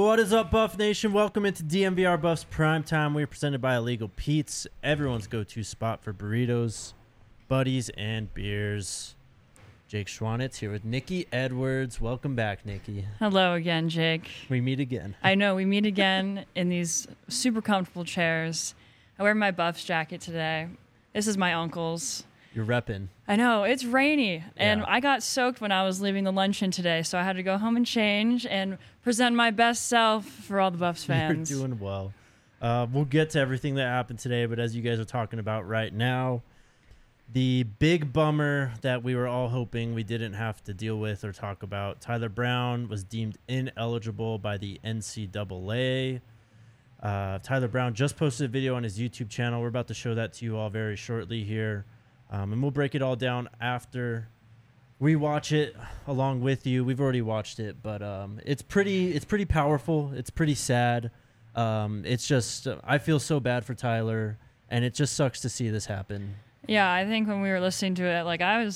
What is up, Buff Nation? Welcome into DMVR Buffs Primetime. We are presented by Illegal Pete's, everyone's go-to spot for burritos, buddies, and beers. Jake Schwanitz here with Nikki Edwards. Welcome back, Nikki. Hello again, Jake. We meet again. I know, we meet again in these super comfortable chairs. I wear my Buffs jacket today. This is my uncle's. You're repping. I know, it's rainy, and Yeah. I got soaked when I was leaving the luncheon today, so I had to go home and change and present my best self for all the Buffs fans. You're doing well. We'll get to everything that happened today, but as you guys are talking about right now, the big bummer that we were all hoping we didn't have to deal with or talk about, Tyler Brown was deemed ineligible by the NCAA. Tyler Brown just posted a video on his YouTube channel. We're about to show that to you all very shortly here. And we'll break it all down after we watch it along with you. We've already watched it, but it's pretty powerful. It's pretty sad. It's just I feel so bad for Tyler, and it just sucks to see this happen. Yeah, I think when we were listening to it,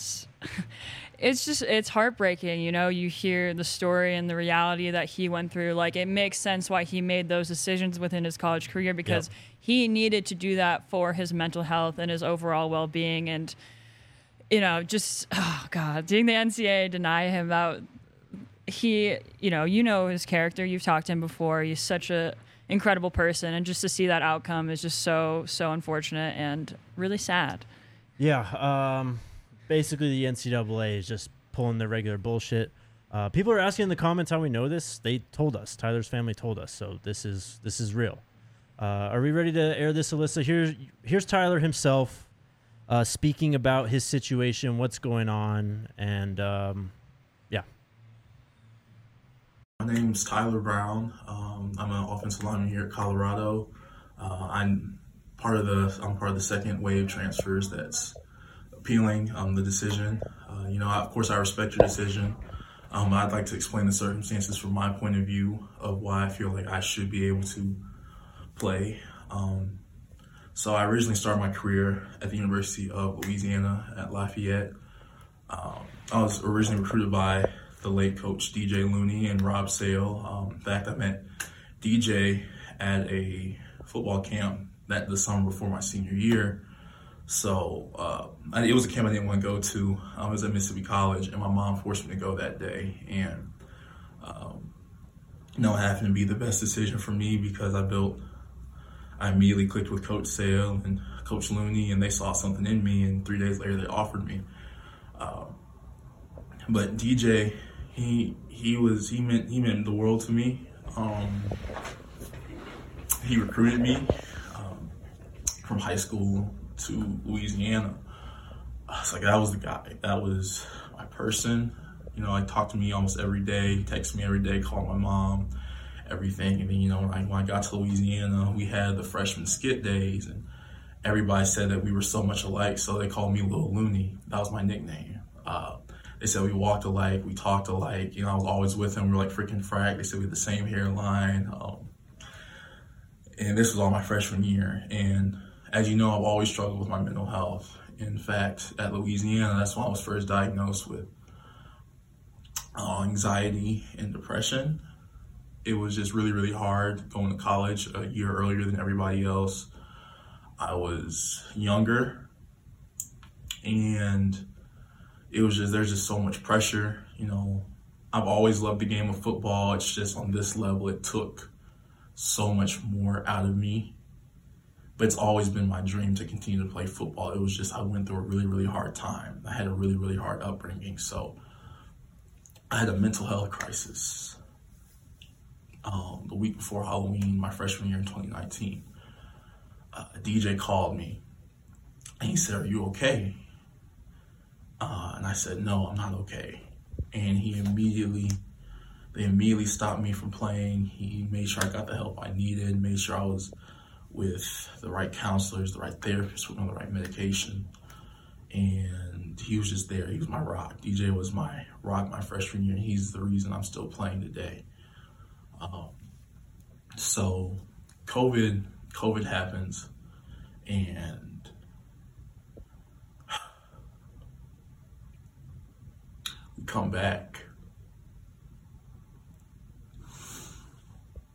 it's heartbreaking. You know, you hear the story and the reality that he went through. Like, it makes sense why he made those decisions within his college career, because he needed to do that for his mental health and his overall well-being. And, you know, just, oh God, seeing the NCAA deny him that, you know his character. You've talked to him before. He's such a incredible person, and just to see that outcome is just so unfortunate and really sad. Yeah, basically the NCAA is just pulling their regular bullshit. People are asking in the comments how we know this. They told us. Tyler's family told us. So this is real. Are we ready to air this, Alyssa? Here's Tyler himself speaking about his situation, what's going on, and yeah. My name's Tyler Brown. I'm an offensive lineman here at Colorado. I'm part of the second wave transfers that's appealing the decision. Of course, I respect your decision. I'd like to explain the circumstances from my point of view of why I feel like I should be able to play. So I originally started my career at the University of Louisiana at Lafayette. I was originally recruited by the late coach DJ Looney and Rob Sale. In fact, I met DJ at a football camp the summer before my senior year. So it was a camp I didn't want to go to. I was at Mississippi College, and my mom forced me to go that day. And it happened to be the best decision for me because I immediately clicked with Coach Sale and Coach Looney, and they saw something in me. And 3 days later, they offered me. But DJ, he meant the world to me. He recruited me from high school to Louisiana. It's like that was the guy. That was my person. He talked to me almost every day, texted me every day, called my mom, everything. And then, when I got to Louisiana, we had the freshman skit days, and everybody said that we were so much alike, so they called me Lil Looney. That was my nickname. They said we walked alike, we talked alike. I was always with him. We were like freaking frag. They said we had the same hairline. And this was all my freshman year. And as you know, I've always struggled with my mental health. In fact, at Louisiana, that's when I was first diagnosed with anxiety and depression. It was just really, really hard going to college a year earlier than everybody else. I was younger, and there's just so much pressure. I've always loved the game of football. It's just on this level, it took so much more out of me. But it's always been my dream to continue to play football. It was just I went through a really, really hard time. I had a really, really hard upbringing. So I had a mental health crisis the week before Halloween, my freshman year in 2019. DJ called me, and he said, "Are you okay?" And I said, "No, I'm not okay." And they immediately stopped me from playing. He made sure I got the help I needed, made sure I was with the right counselors, the right therapists, on the right medication. And he was just there. He was my rock. DJ was my rock my freshman year, and he's the reason I'm still playing today. So COVID happens, and we come back.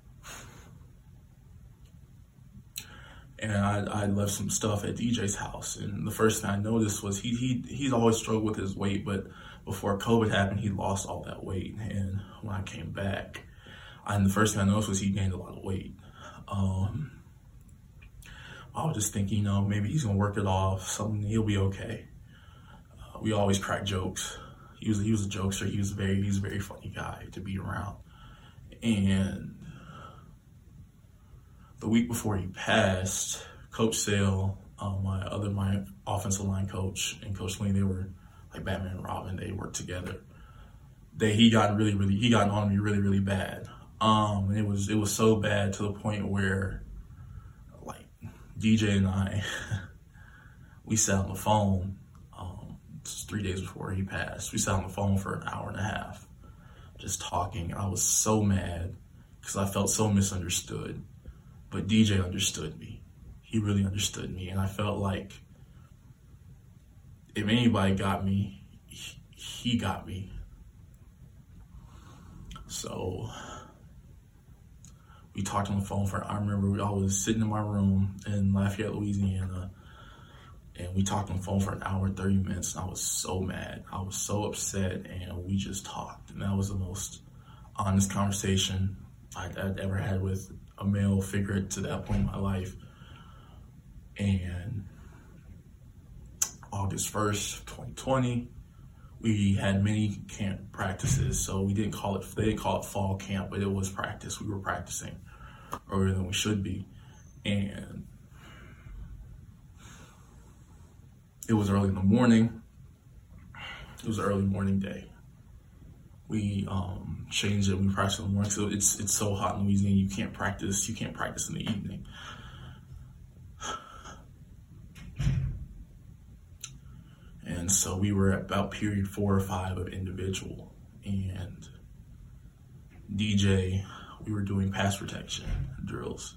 and I left some stuff at DJ's house. And the first thing I noticed was he's always struggled with his weight, but before COVID happened, he lost all that weight. And when I came back, the first thing I noticed was he gained a lot of weight. I was just thinking, maybe he's gonna work it off. He'll be okay. We always crack jokes. He was a jokester. He was a very funny guy to be around. And the week before he passed, Coach Sale, my offensive line coach, and Coach Lee, they were like Batman and Robin. They worked together. He got on me really bad. And it was so bad to the point where, like, DJ and I, we sat on the phone. 3 days before he passed, we sat on the phone for an hour and a half, just talking. I was so mad because I felt so misunderstood. But DJ understood me. He really understood me, and I felt like if anybody got me, he got me. So we talked on the phone I remember I was sitting in my room in Lafayette, Louisiana, and we talked on the phone for an hour and 30 minutes, and I was so mad. I was so upset, and we just talked. And that was the most honest conversation I'd ever had with a male figure to that point in my life. And August 1st, 2020, we had mini camp practices. So they didn't call it fall camp, but it was practice. We were practicing earlier than we should be. And it was early in the morning. It was an early morning day. We changed it. We practiced in the morning. So it's so hot in Louisiana. You can't practice in the evening. And so we were at about period 4 or 5 of individual. And DJ, we were doing pass protection drills.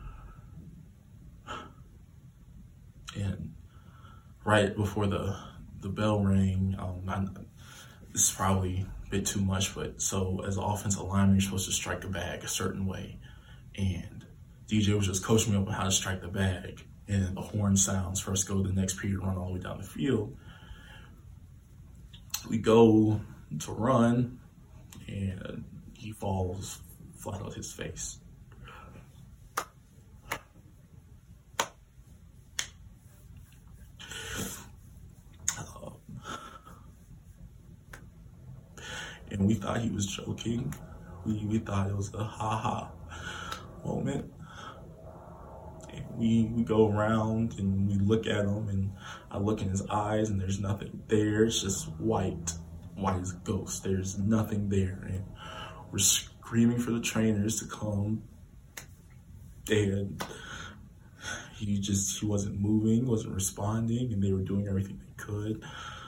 And right before the bell rang, this is probably a bit too much, but so as an offensive lineman, you're supposed to strike the bag a certain way. And DJ was just coaching me up on how to strike the bag. And the horn sounds for us to go to the next period, run all the way down the field. We go to run, and he falls flat on his face. And we thought he was joking. We thought it was a ha-ha moment. And we go around and we look at him, and I look in his eyes, and there's nothing there. It's just white as a ghost. There's nothing there. And we're screaming for the trainers to come. And he wasn't moving, wasn't responding, and they were doing everything they could.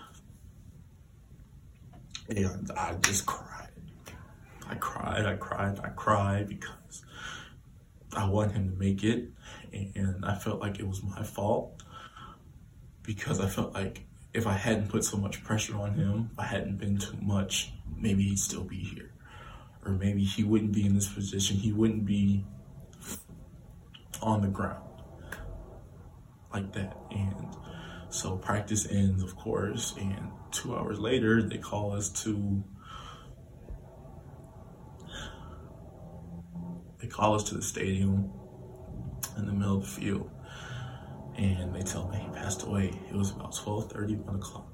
And I just cried. I cried because I want him to make it. And I felt like it was my fault, because I felt like if I hadn't put so much pressure on him, if I hadn't been too much, maybe he'd still be here. Or maybe he wouldn't be in this position. He wouldn't be on the ground like that. And so practice ends, of course, and 2 hours later, they call us to the stadium in the middle of the field, and they tell me he passed away. It was about 12:30, 1 o'clock.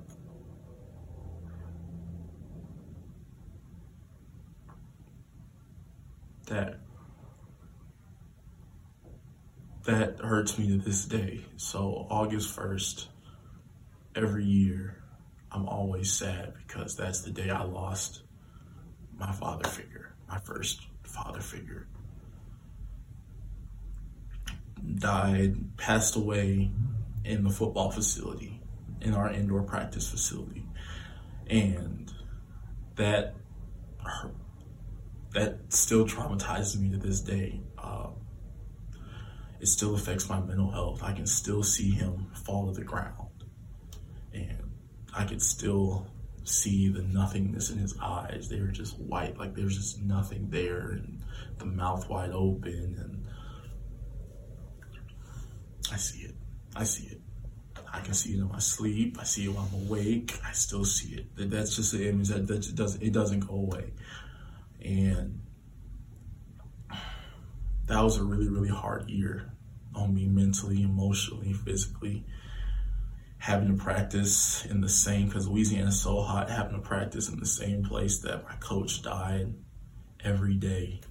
That hurts me to this day. So August 1st, every year, I'm always sad, because that's the day I lost my father figure, my first father figure. Died, passed away in the football facility, in our indoor practice facility. And that still traumatizes me to this day. It still affects my mental health. I can still see him fall to the ground, and I could still see the nothingness in his eyes. They were just white, like there's just nothing there, and the mouth wide open. And I see it. I see it. I can see it in my sleep. I see it when I'm awake. I still see it. That's just an image that doesn't go away. And that was a really, really hard year on me mentally, emotionally, physically. Having to practice in the same, because Louisiana's so hot, having to practice in the same place that my coach died every day.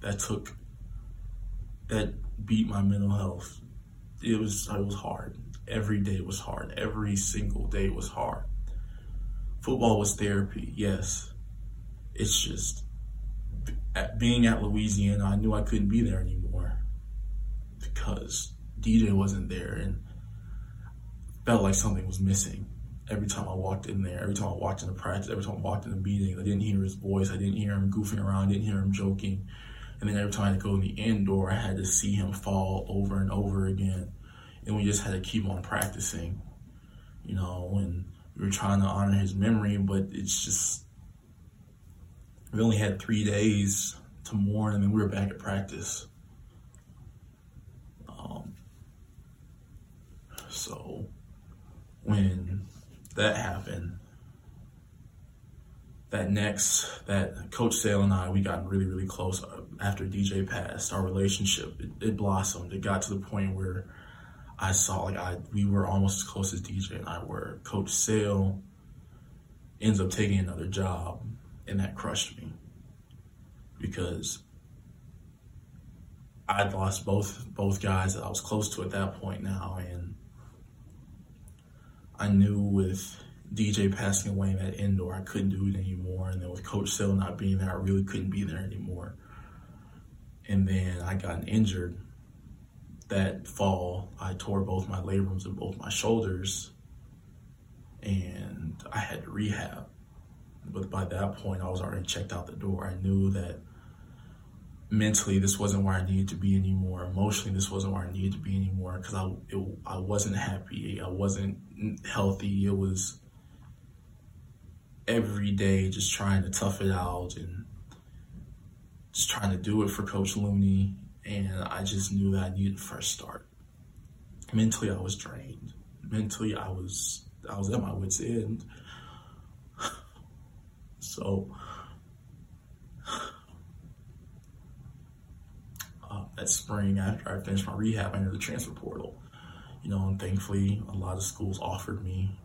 That beat my mental health. It was hard. Every day was hard. Every single day was hard. Football was therapy, yes. It's just, being at Louisiana, I knew I couldn't be there anymore because DJ wasn't there, and felt like something was missing. Every time I walked in there, every time I walked into practice, every time I walked in the meeting, I didn't hear his voice. I didn't hear him goofing around. I didn't hear him joking. And then every time I had to go in the indoor, I had to see him fall over and over again. And we just had to keep on practicing, and we were trying to honor his memory, but it's just, we only had 3 days to mourn, and then we were back at practice. So when that happened, that Coach Sale and I, we got really, really close after DJ passed. Our relationship, it blossomed. It got to the point where I saw, we were almost as close as DJ and I were. Coach Sale ends up taking another job, and that crushed me because I'd lost both guys that I was close to at that point now, and I knew with DJ passing away in that indoor, I couldn't do it anymore. And then with Coach Sale not being there, I really couldn't be there anymore. And then I got injured that fall. I tore both my labrums and both my shoulders, and I had to rehab. But by that point, I was already checked out the door. I knew that mentally, this wasn't where I needed to be anymore. Emotionally, this wasn't where I needed to be anymore because I wasn't happy. I wasn't healthy. It was every day just trying to tough it out and just trying to do it for Coach Looney. And I just knew that I needed a fresh start. Mentally, I was drained. Mentally, I was at my wit's end. So that spring, after I finished my rehab, I entered the transfer portal. And thankfully, a lot of schools offered me.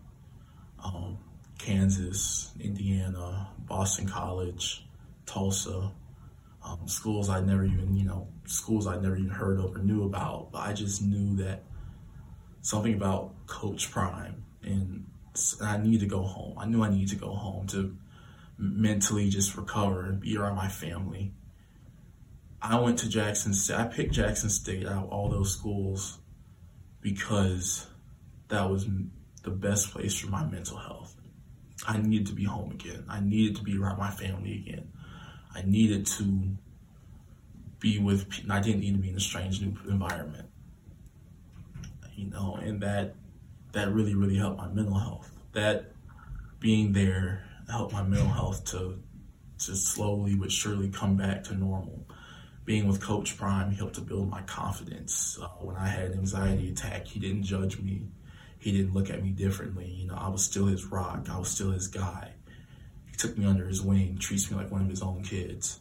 Kansas, Indiana, Boston College, Tulsa, schools I'd never even heard of or knew about. But I just knew that something about Coach Prime, and I needed to go home. I knew I needed to go home to mentally just recover and be around my family. I went to Jackson State. I picked Jackson State out of all those schools because that was the best place for my mental health. I needed to be home again. I needed to be around my family again. I needed to be with people. I didn't need to be in a strange new environment. And that really, really helped my mental health. That being there helped my mental health to slowly but surely come back to normal. Being with Coach Prime helped to build my confidence. When I had an anxiety attack, he didn't judge me. He didn't look at me differently. I was still his rock. I was still his guy. He took me under his wing, treats me like one of his own kids.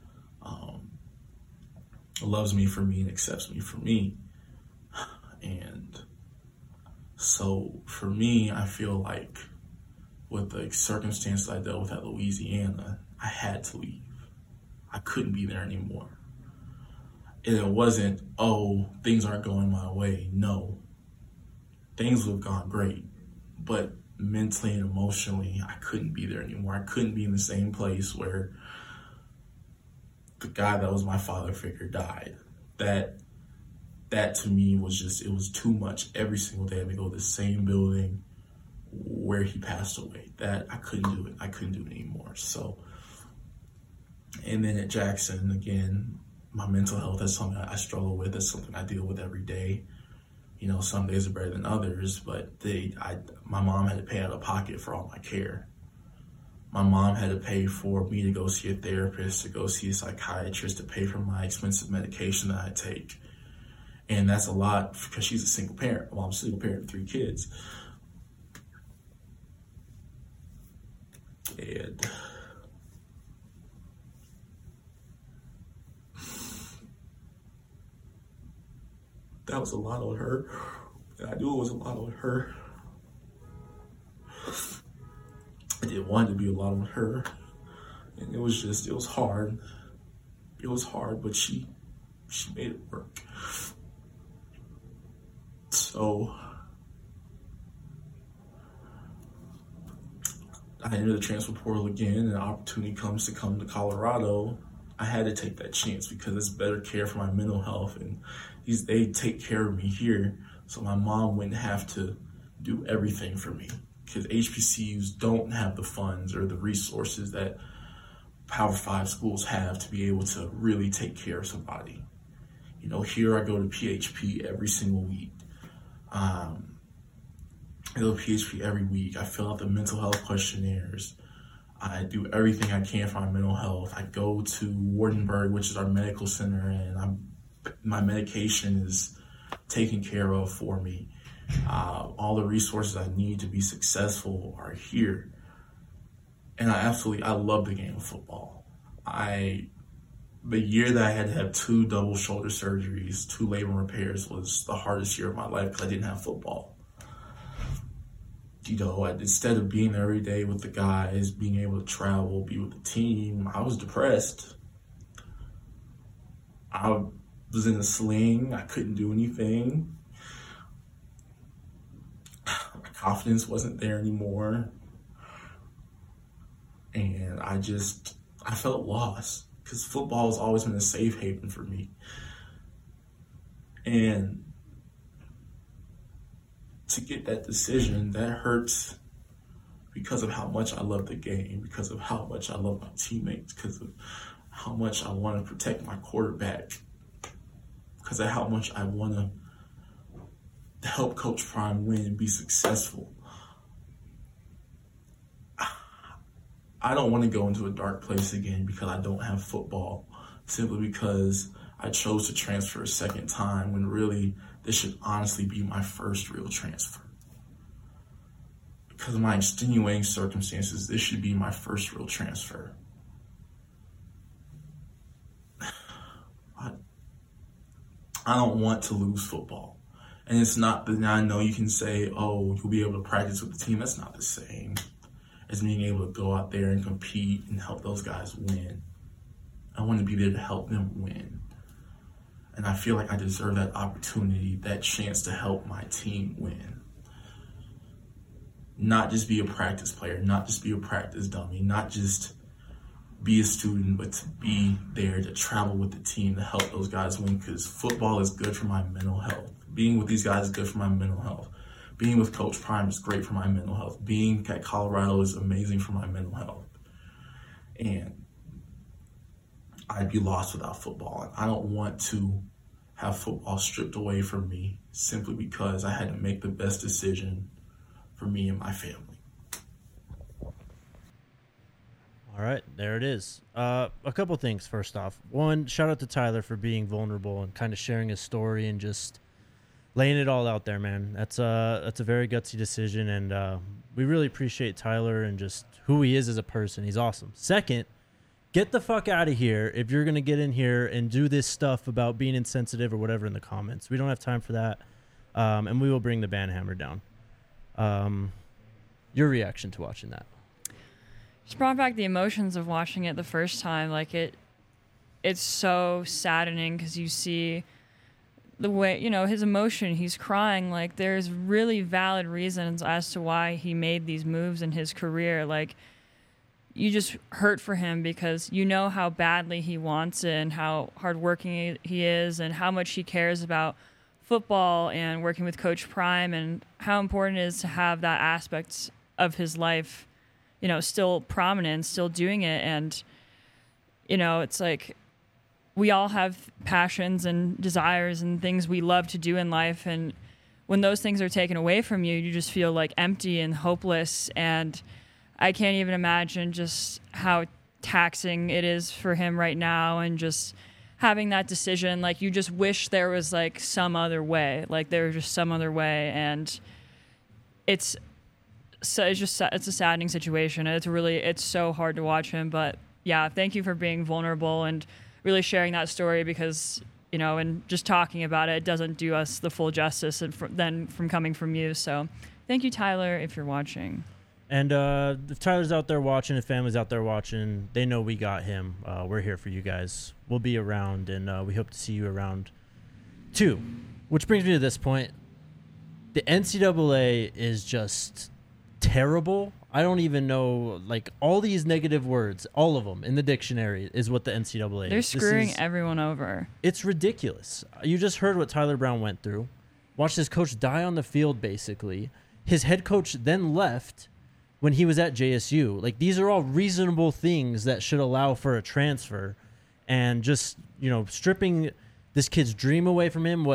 Loves me for me and accepts me for me. And so for me, I feel like with the circumstances I dealt with at Louisiana, I had to leave. I couldn't be there anymore. And it wasn't, things aren't going my way. No. Things would have gone great. But mentally and emotionally, I couldn't be there anymore. I couldn't be in the same place where the guy that was my father figure died. That to me was it was too much. Every single day I had to go to the same building where he passed away. That I couldn't do it. I couldn't do it anymore. So, and then at Jackson, again, my mental health is something I struggle with. It's something I deal with every day. Some days are better than others, but my mom had to pay out of pocket for all my care. My mom had to pay for me to go see a therapist, to go see a psychiatrist, to pay for my expensive medication that I take. And that's a lot because she's a single parent. Well, I'm a single parent of 3 kids. And that was a lot on her. And I knew it was a lot on her. I didn't want it to be a lot on her. And it was hard. It was hard, but she made it work. So I entered the transfer portal again, and an opportunity comes to come to Colorado. I had to take that chance because it's better care for my mental health, and they take care of me here, so my mom wouldn't have to do everything for me. Because HBCUs don't have the funds or the resources that Power 5 schools have to be able to really take care of somebody. You know, here I go to PHP every single week. I go to PHP every week. I fill out the mental health questionnaires. I do everything I can for my mental health. I go to Wardenburg, which is our medical center, and my medication is taken care of for me. All the resources I need to be successful are here. And I love the game of football. The year that I had to have 2 double shoulder surgeries, 2 labrum repairs was the hardest year of my life because I didn't have football. You know, instead of being there every day with the guys, being able to travel, be with the team, I was depressed. I was in a sling. I couldn't do anything. My confidence wasn't there anymore. And I felt lost because football has always been a safe haven for me. And to get that decision, that hurts because of how much I love the game, because of how much I love my teammates, because of how much I want to protect my quarterback, because of how much I want to help Coach Prime win and be successful. I don't want to go into a dark place again because I don't have football, simply because I chose to transfer a second time when really this should honestly be my first real transfer. Because of my extenuating circumstances, this should be my first real transfer. I don't want to lose football. And it's not that I know you can say, oh, you'll be able to practice with the team. That's not the same as being able to go out there and compete and help those guys win. I want to be there to help them win. And I feel like I deserve that opportunity, that chance to help my team win. Not just be a practice player, not just be a practice dummy, not just be a student, but to be there to travel with the team to help those guys win, because football is good for my mental health. Being with these guys is good for my mental health. Being with Coach Prime is great for my mental health. Being at Colorado is amazing for my mental health. And I'd be lost without football. And I don't want to have football stripped away from me simply because I had to make the best decision for me and my family. All right, there it is. A couple things first off. One, shout out to Tyler for being vulnerable and kind of sharing his story and just laying it all out there, man. That's a very gutsy decision, and we really appreciate Tyler and just who he is as a person. He's awesome. Second, get the fuck out of here if you're going to get in here and do this stuff about being insensitive or whatever in the comments. We don't have time for that, and we will bring the banhammer down. Your reaction to watching that? Just brought back the emotions of watching it the first time. Like it's so saddening because you see the way, his emotion, he's crying. Like there's really valid reasons as to why he made these moves in his career. Like you just hurt for him because you know how badly he wants it and how hardworking he is and how much he cares about football and working with Coach Prime and how important it is to have that aspect of his life, still prominent, still doing it. And, it's like we all have passions and desires and things we love to do in life. And when those things are taken away from you, you just feel like empty and hopeless. And I can't even imagine just how taxing it is for him right now and just having that decision, like you just wish there was like some other way, like there was just some other way. And it's a saddening situation. It's so hard to watch him, but yeah, thank you for being vulnerable and really sharing that story, because, you know, and just talking about it doesn't do us the full justice and then from coming from you. So thank you, Tyler, if you're watching. And if Tyler's out there watching, if family's out there watching, they know we got him. We're here for you guys. We'll be around, and we hope to see you around too. Which brings me to this point. The NCAA is just terrible. I don't even know, like, all these negative words, all of them in the dictionary is what the NCAA is. They're screwing everyone over. It's ridiculous. You just heard what Tyler Brown went through. Watched his coach die on the field, basically. His head coach then left when he was at JSU. Like, these are all reasonable things that should allow for a transfer. And just, you know, stripping this kid's dream away from him.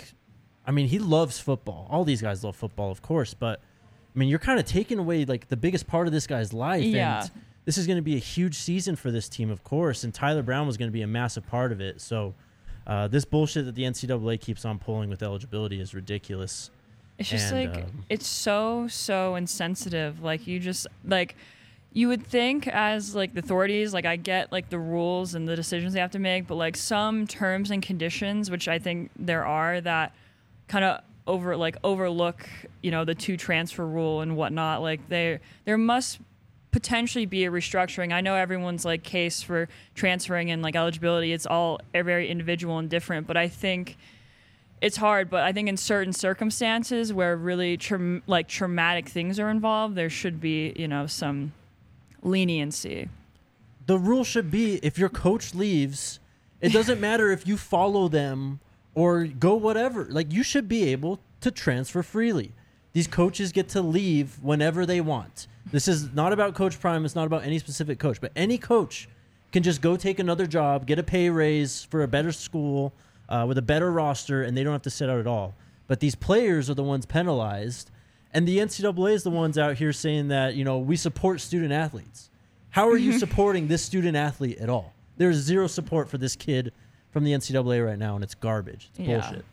I mean, he loves football. All these guys love football, of course. But, I mean, you're kind of taking away, like, the biggest part of this guy's life. Yeah. And this is going to be a huge season for this team, of course. And Tyler Brown was going to be a massive part of it. So, this bullshit that the NCAA keeps on pulling with eligibility is ridiculous. It's just it's so insensitive. Like, you just, like, you would think as, like, the authorities, like, I get, like, the rules and the decisions they have to make, but, like, some terms and conditions, which I think there are, that kind of overlook, you know, the 2 transfer rule and whatnot. Like, there must potentially be a restructuring. I know everyone's, like, case for transferring and, like, eligibility, it's all very individual and different, but I think it's hard. But I think in certain circumstances where really traumatic things are involved, there should be, you know, some leniency. The rule should be, if your coach leaves, it doesn't matter if you follow them or go whatever. Like, you should be able to transfer freely. These coaches get to leave whenever they want. This is not about Coach Prime. It's not about any specific coach. But any coach can just go take another job, get a pay raise for a better school with a better roster, and they don't have to sit out at all. But these players are the ones penalized. And the NCAA is the ones out here saying that, you know, we support student athletes. How are you supporting this student athlete at all? There's zero support for this kid from the NCAA right now, and it's garbage. It's bullshit.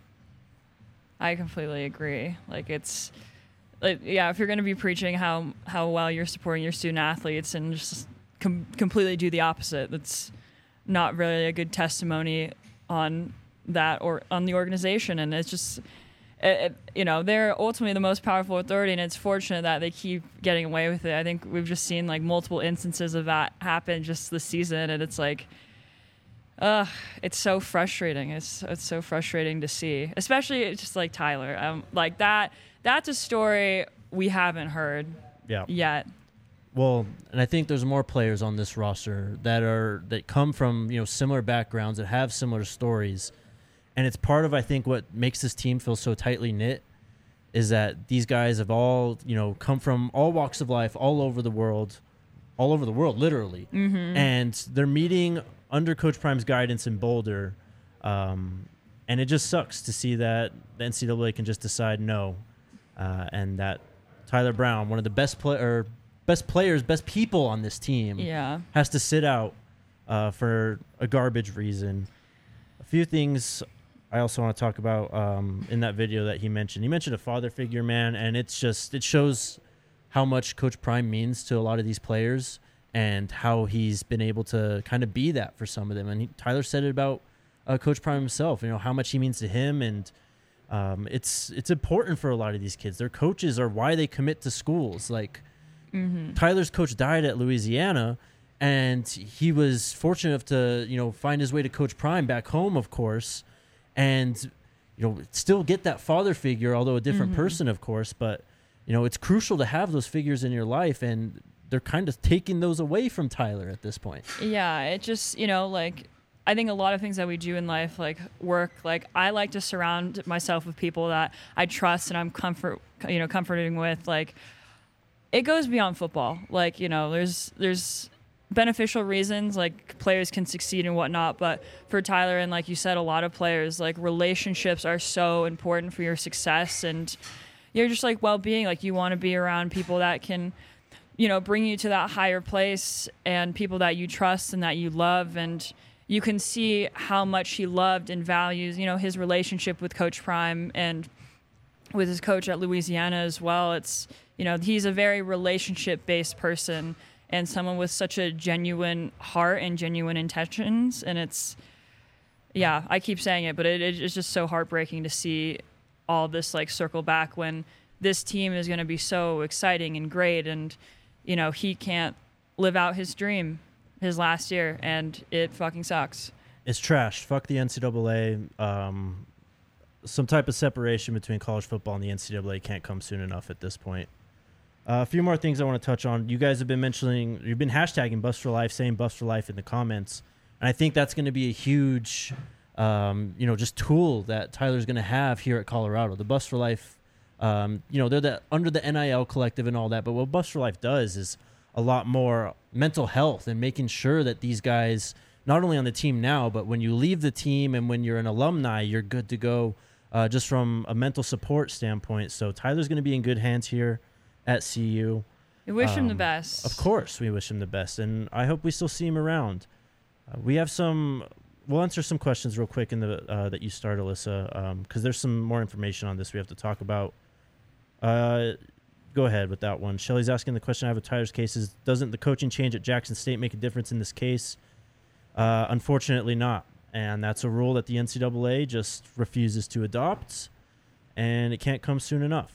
I completely agree. Like, it's, like, yeah, if you're going to be preaching how well you're supporting your student athletes and just completely do the opposite, that's not really a good testimony on that or on the organization. And it's just, you know, they're ultimately the most powerful authority, and it's fortunate that they keep getting away with it. I think we've just seen, like, multiple instances of that happen just this season, and it's like, it's so frustrating. It's so frustrating to see, especially just like Tyler. Like that's a story we haven't heard yet. Well, and I think there's more players on this roster that come from, you know, similar backgrounds, that have similar stories. And it's part of, I think, what makes this team feel so tightly knit is that these guys have all, you know, come from all walks of life, all over the world, literally. Mm-hmm. And they're meeting under Coach Prime's guidance in Boulder. And it just sucks to see that the NCAA can just decide no. And that Tyler Brown, one of the best players, best people on this team, has to sit out for a garbage reason. A few things I also want to talk about in that video that he mentioned. He mentioned a father figure, man, and it shows how much Coach Prime means to a lot of these players and how he's been able to kind of be that for some of them. And Tyler said it about Coach Prime himself, you know, how much he means to him. And it's important for a lot of these kids. Their coaches are why they commit to schools. Like, Tyler's coach died at Louisiana, and he was fortunate enough to, you know, find his way to Coach Prime back home, of course, and, you know, still get that father figure, although a different person, of course. But, you know, it's crucial to have those figures in your life, and they're kind of taking those away from Tyler at this point. Yeah, it just, you know, like, I think a lot of things that we do in life, like work, like I like to surround myself with people that I trust and I'm comforting with. Like, it goes beyond football. Like, you know, there's beneficial reasons, like players can succeed and whatnot, but for Tyler and, like you said, a lot of players, like, relationships are so important for your success and you're just, like, well-being. Like, you want to be around people that can, you know, bring you to that higher place and people that you trust and that you love. And you can see how much he loved and values, his relationship with Coach Prime and with his coach at Louisiana as well. It's, he's a very relationship-based person and someone with such a genuine heart and genuine intentions. And it's, yeah, I keep saying it, but it's just so heartbreaking to see all this like circle back when this team is going to be so exciting and great. And, he can't live out his dream his last year, and it fucking sucks. It's trash. Fuck the NCAA. Some type of separation between college football and the NCAA can't come soon enough at this point. A few more things I want to touch on. You guys have been you've been hashtagging Bus for Life, saying Bus for Life in the comments. And I think that's going to be a huge, just tool that Tyler's going to have here at Colorado. The Bus for Life, they're under the NIL collective and all that. But what Bus for Life does is a lot more mental health and making sure that these guys, not only on the team now, but when you leave the team and when you're an alumni, you're good to go just from a mental support standpoint. So Tyler's going to be in good hands here at CU. We wish him the best. Of course, we wish him the best. And I hope we still see him around. We'll answer some questions real quick in the that you started, Alyssa, because there's some more information on this we have to talk about. Go ahead with that one. Shelly's asking the question I have with Tyler's case is, doesn't the coaching change at Jackson State make a difference in this case? Unfortunately not. And that's a rule that the NCAA just refuses to adopt, and it can't come soon enough.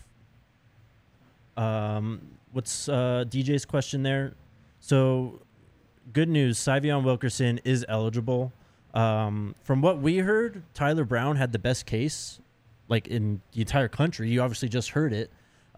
What's DJ's question there? So, good news, Sy'Veon Wilkerson is eligible. From what we heard, Tyler Brown had the best case, like in the entire country. You obviously just heard it.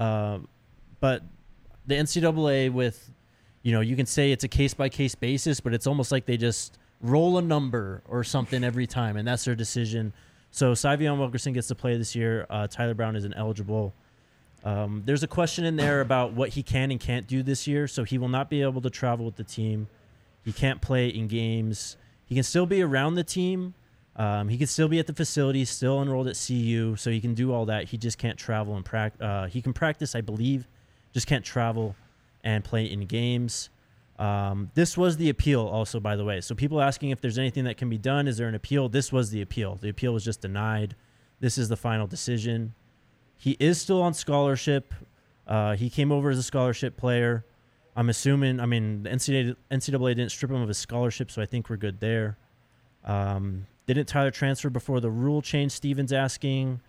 But the NCAA with, you can say it's a case-by-case basis, but it's almost like they just roll a number or something every time, and that's their decision. So Sy'Veon Wilkerson gets to play this year. Tyler Brown isn't eligible. There's a question in there about what he can and can't do this year, so he will not be able to travel with the team. He can't play in games. He can still be around the team. He can still be at the facility, still enrolled at CU, so he can do all that. He just can't travel and practice. He can practice, I believe, just can't travel and play in games. This was the appeal also, by the way. So people asking if there's anything that can be done. Is there an appeal? This was the appeal. The appeal was just denied. This is the final decision. He is still on scholarship. He came over as a scholarship player. I'm assuming, the NCAA didn't strip him of his scholarship, so I think we're good there. Didn't Tyler transfer before the rule change? Steven's asking.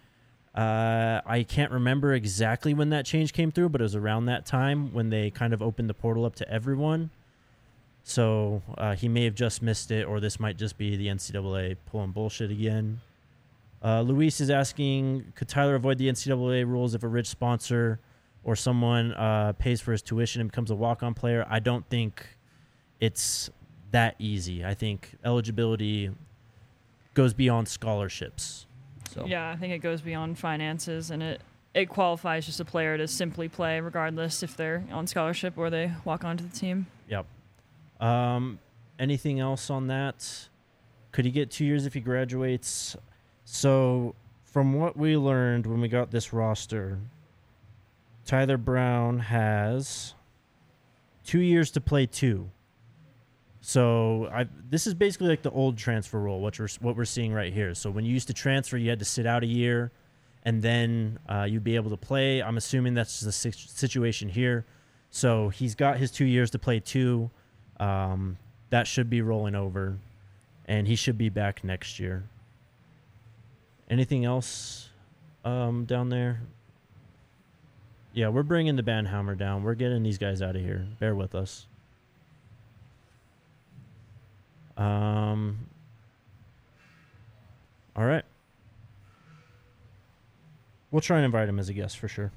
I can't remember exactly when that change came through, but it was around that time when they kind of opened the portal up to everyone. So he may have just missed it, or this might just be the NCAA pulling bullshit again. Luis is asking, could Tyler avoid the NCAA rules if a rich sponsor or someone pays for his tuition and becomes a walk-on player? I don't think it's that easy. I think eligibility goes beyond scholarships. So. Yeah, I think it goes beyond finances, and it qualifies just a player to simply play regardless if they're on scholarship or they walk onto the team. Yep. Anything else on that? Could he get 2 years if he graduates? So from what we learned when we got this roster, Tyler Brown has 2 years to play 2. So this is basically like the old transfer rule, what we're seeing right here. So when you used to transfer, you had to sit out a year, and then you'd be able to play. I'm assuming that's the situation here. So he's got his 2 years to play 2. That should be rolling over, and he should be back next year. Anything else down there? Yeah, we're bringing the Banhammer down. We're getting these guys out of here. Bear with us. All right. We'll try and invite him as a guest for sure.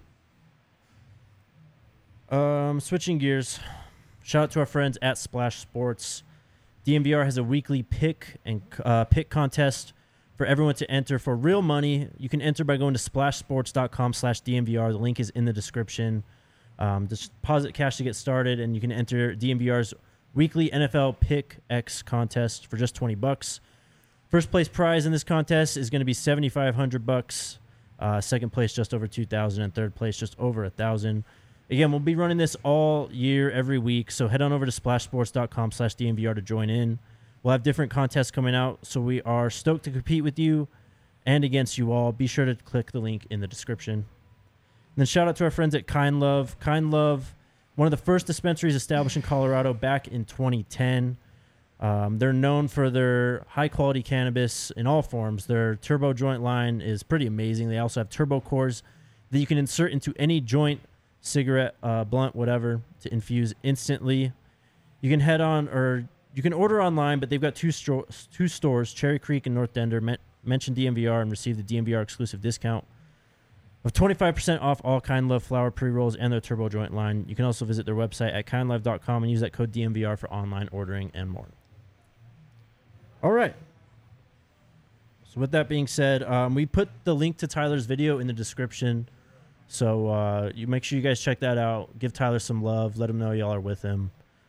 Switching gears. Shout out to our friends at Splash Sports. DNVR has a weekly pick contest for everyone to enter for real money. You can enter by going to splashsports.com/DNVR. The link is in the description. Just deposit cash to get started, and you can enter DNVR's weekly NFL Pick X contest for just $20. First place prize in this contest is going to be $7,500. Second place just over $2,000, and third place just over $1,000. Again, we'll be running this all year, every week. So head on over to splashsports.com/DNVR to join in. We'll have different contests coming out, so we are stoked to compete with you and against you all. Be sure to click the link in the description. And then shout out to our friends at Kind Love. Kind Love, one of the first dispensaries established in Colorado back in 2010. They're known for their high-quality cannabis in all forms. Their turbo joint line is pretty amazing. They also have turbo cores that you can insert into any joint, cigarette, blunt, whatever, to infuse instantly. You can head on, or you can order online, but they've got two stores, Cherry Creek and North Denver. Mention DMVR and receive the DMVR exclusive discount of 25% off all Kind Love flower pre-rolls and their turbo joint line. You can also visit their website at kindlove.com and use that code DMVR for online ordering and more. All right. So with that being said, we put the link to Tyler's video in the description. So you make sure you guys check that out. Give Tyler some love. Let him know y'all are with him.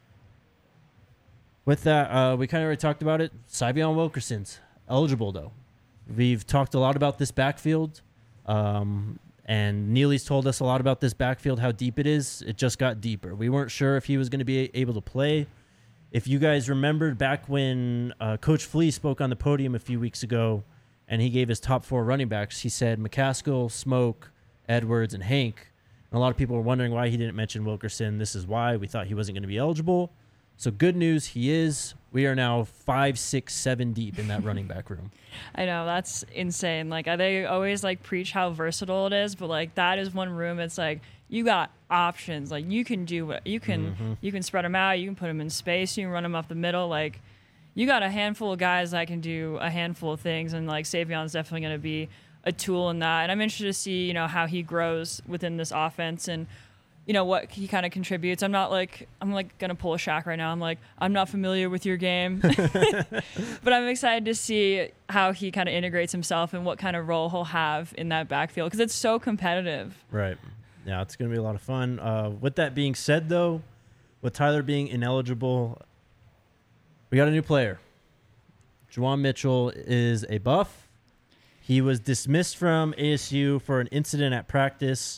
With that, we kind of already talked about it. Sy'Veon Wilkerson's eligible, though. We've talked a lot about this backfield. And Neely's told us a lot about this backfield, how deep it is. It just got deeper. We weren't sure if he was going to be able to play. If you guys remembered back when Coach Flea spoke on the podium a few weeks ago and he gave his top 4 running backs, he said McCaskill, Smoke, Edwards, and Hank. And a lot of people were wondering why he didn't mention Wilkerson. This is why. We thought he wasn't going to be eligible. So good news, he is. We are now 5, 6, 7 deep in that running back room. I know, that's insane. Like, they always like preach how versatile it is, but like that is one room. It's like you got options. Like you can do what you can. You can spread them out. You can put them in space. You can run them up the middle. Like you got a handful of guys that can do a handful of things, and like Sy'Veon's definitely going to be a tool in that. And I'm interested to see, you know, how he grows within this offense and, you know, what he kind of contributes. I'm like going to pull a Shaq right now. I'm like, I'm not familiar with your game, but I'm excited to see how he kind of integrates himself and what kind of role he'll have in that backfield because it's so competitive. Right. Yeah, it's going to be a lot of fun. With that being said, though, with Tyler being ineligible, we got a new player. Juwan Mitchell is a buff. He was dismissed from ASU for an incident at practice.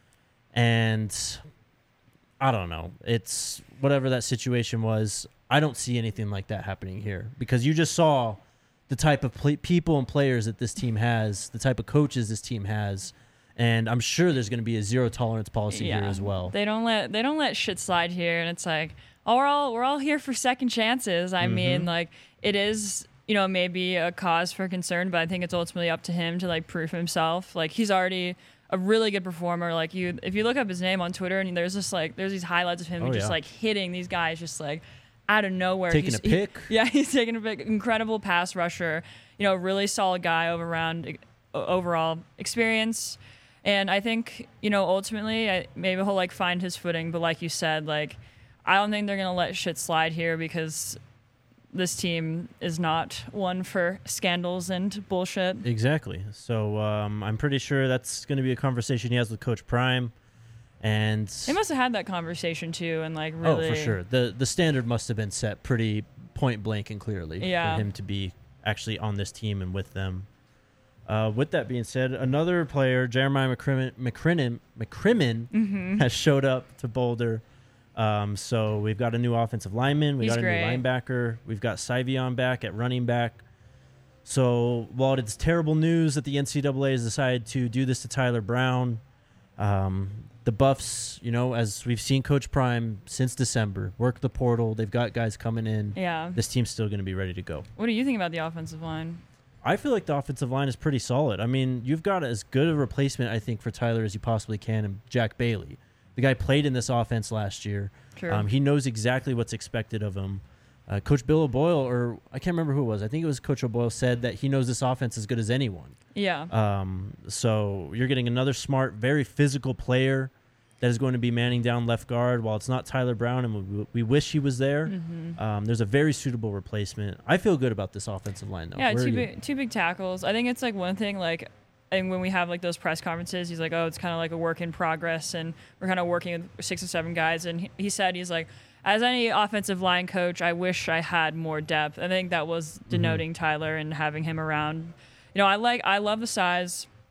And I don't know. It's whatever that situation was. I don't see anything like that happening here because you just saw the type of people and players that this team has, the type of coaches this team has. And I'm sure there's going to be a zero tolerance policy here as well. They don't let shit slide here. And it's like, oh, we're all here for second chances. I mean, like it is, you know, maybe a cause for concern, but I think it's ultimately up to him to like prove himself. Like he's already a really good performer. Like if you look up his name on Twitter and there's these highlights of him just like hitting these guys just like out of nowhere. Taking a pick. He's taking a pick. Incredible pass rusher. You know, really solid guy overall experience. And I think, you know, ultimately maybe he'll like find his footing. But like you said, like I don't think they're gonna let shit slide here because this team is not one for scandals and bullshit. Exactly. So I'm pretty sure that's going to be a conversation he has with Coach Prime. And they must have had that conversation too. And like really. Oh, for sure. The standard must have been set pretty point blank and clearly for him to be actually on this team and with them. With that being said, another player, Jeremiah McCrimmon has showed up to Boulder. So we've got a new offensive lineman. We got a new linebacker. We've got Sy'Veon back at running back. So while it's terrible news that the NCAA has decided to do this to Tyler Brown, the Buffs, you know, as we've seen Coach Prime since December, work the portal. They've got guys coming in. Yeah. This team's still going to be ready to go. What do you think about the offensive line? I feel like the offensive line is pretty solid. I mean, you've got as good a replacement, I think, for Tyler as you possibly can in Jack Bailey. The guy played in this offense last year. True. He knows exactly what's expected of him. Coach Bill O'Boyle, or I can't remember who it was. I think it was Coach O'Boyle said that he knows this offense as good as anyone. Yeah. So you're getting another smart, very physical player that is going to be manning down left guard. While it's not Tyler Brown, and we wish he was there, there's a very suitable replacement. I feel good about this offensive line, though. Yeah, two big tackles. I think it's like one thing, like, and when we have like those press conferences, he's like, oh, it's kind of like a work in progress, and we're kind of working with 6 or 7 guys. And he said, he's like, as any offensive line coach, I wish I had more depth. I think that was denoting Tyler and having him around. You know, I love the size.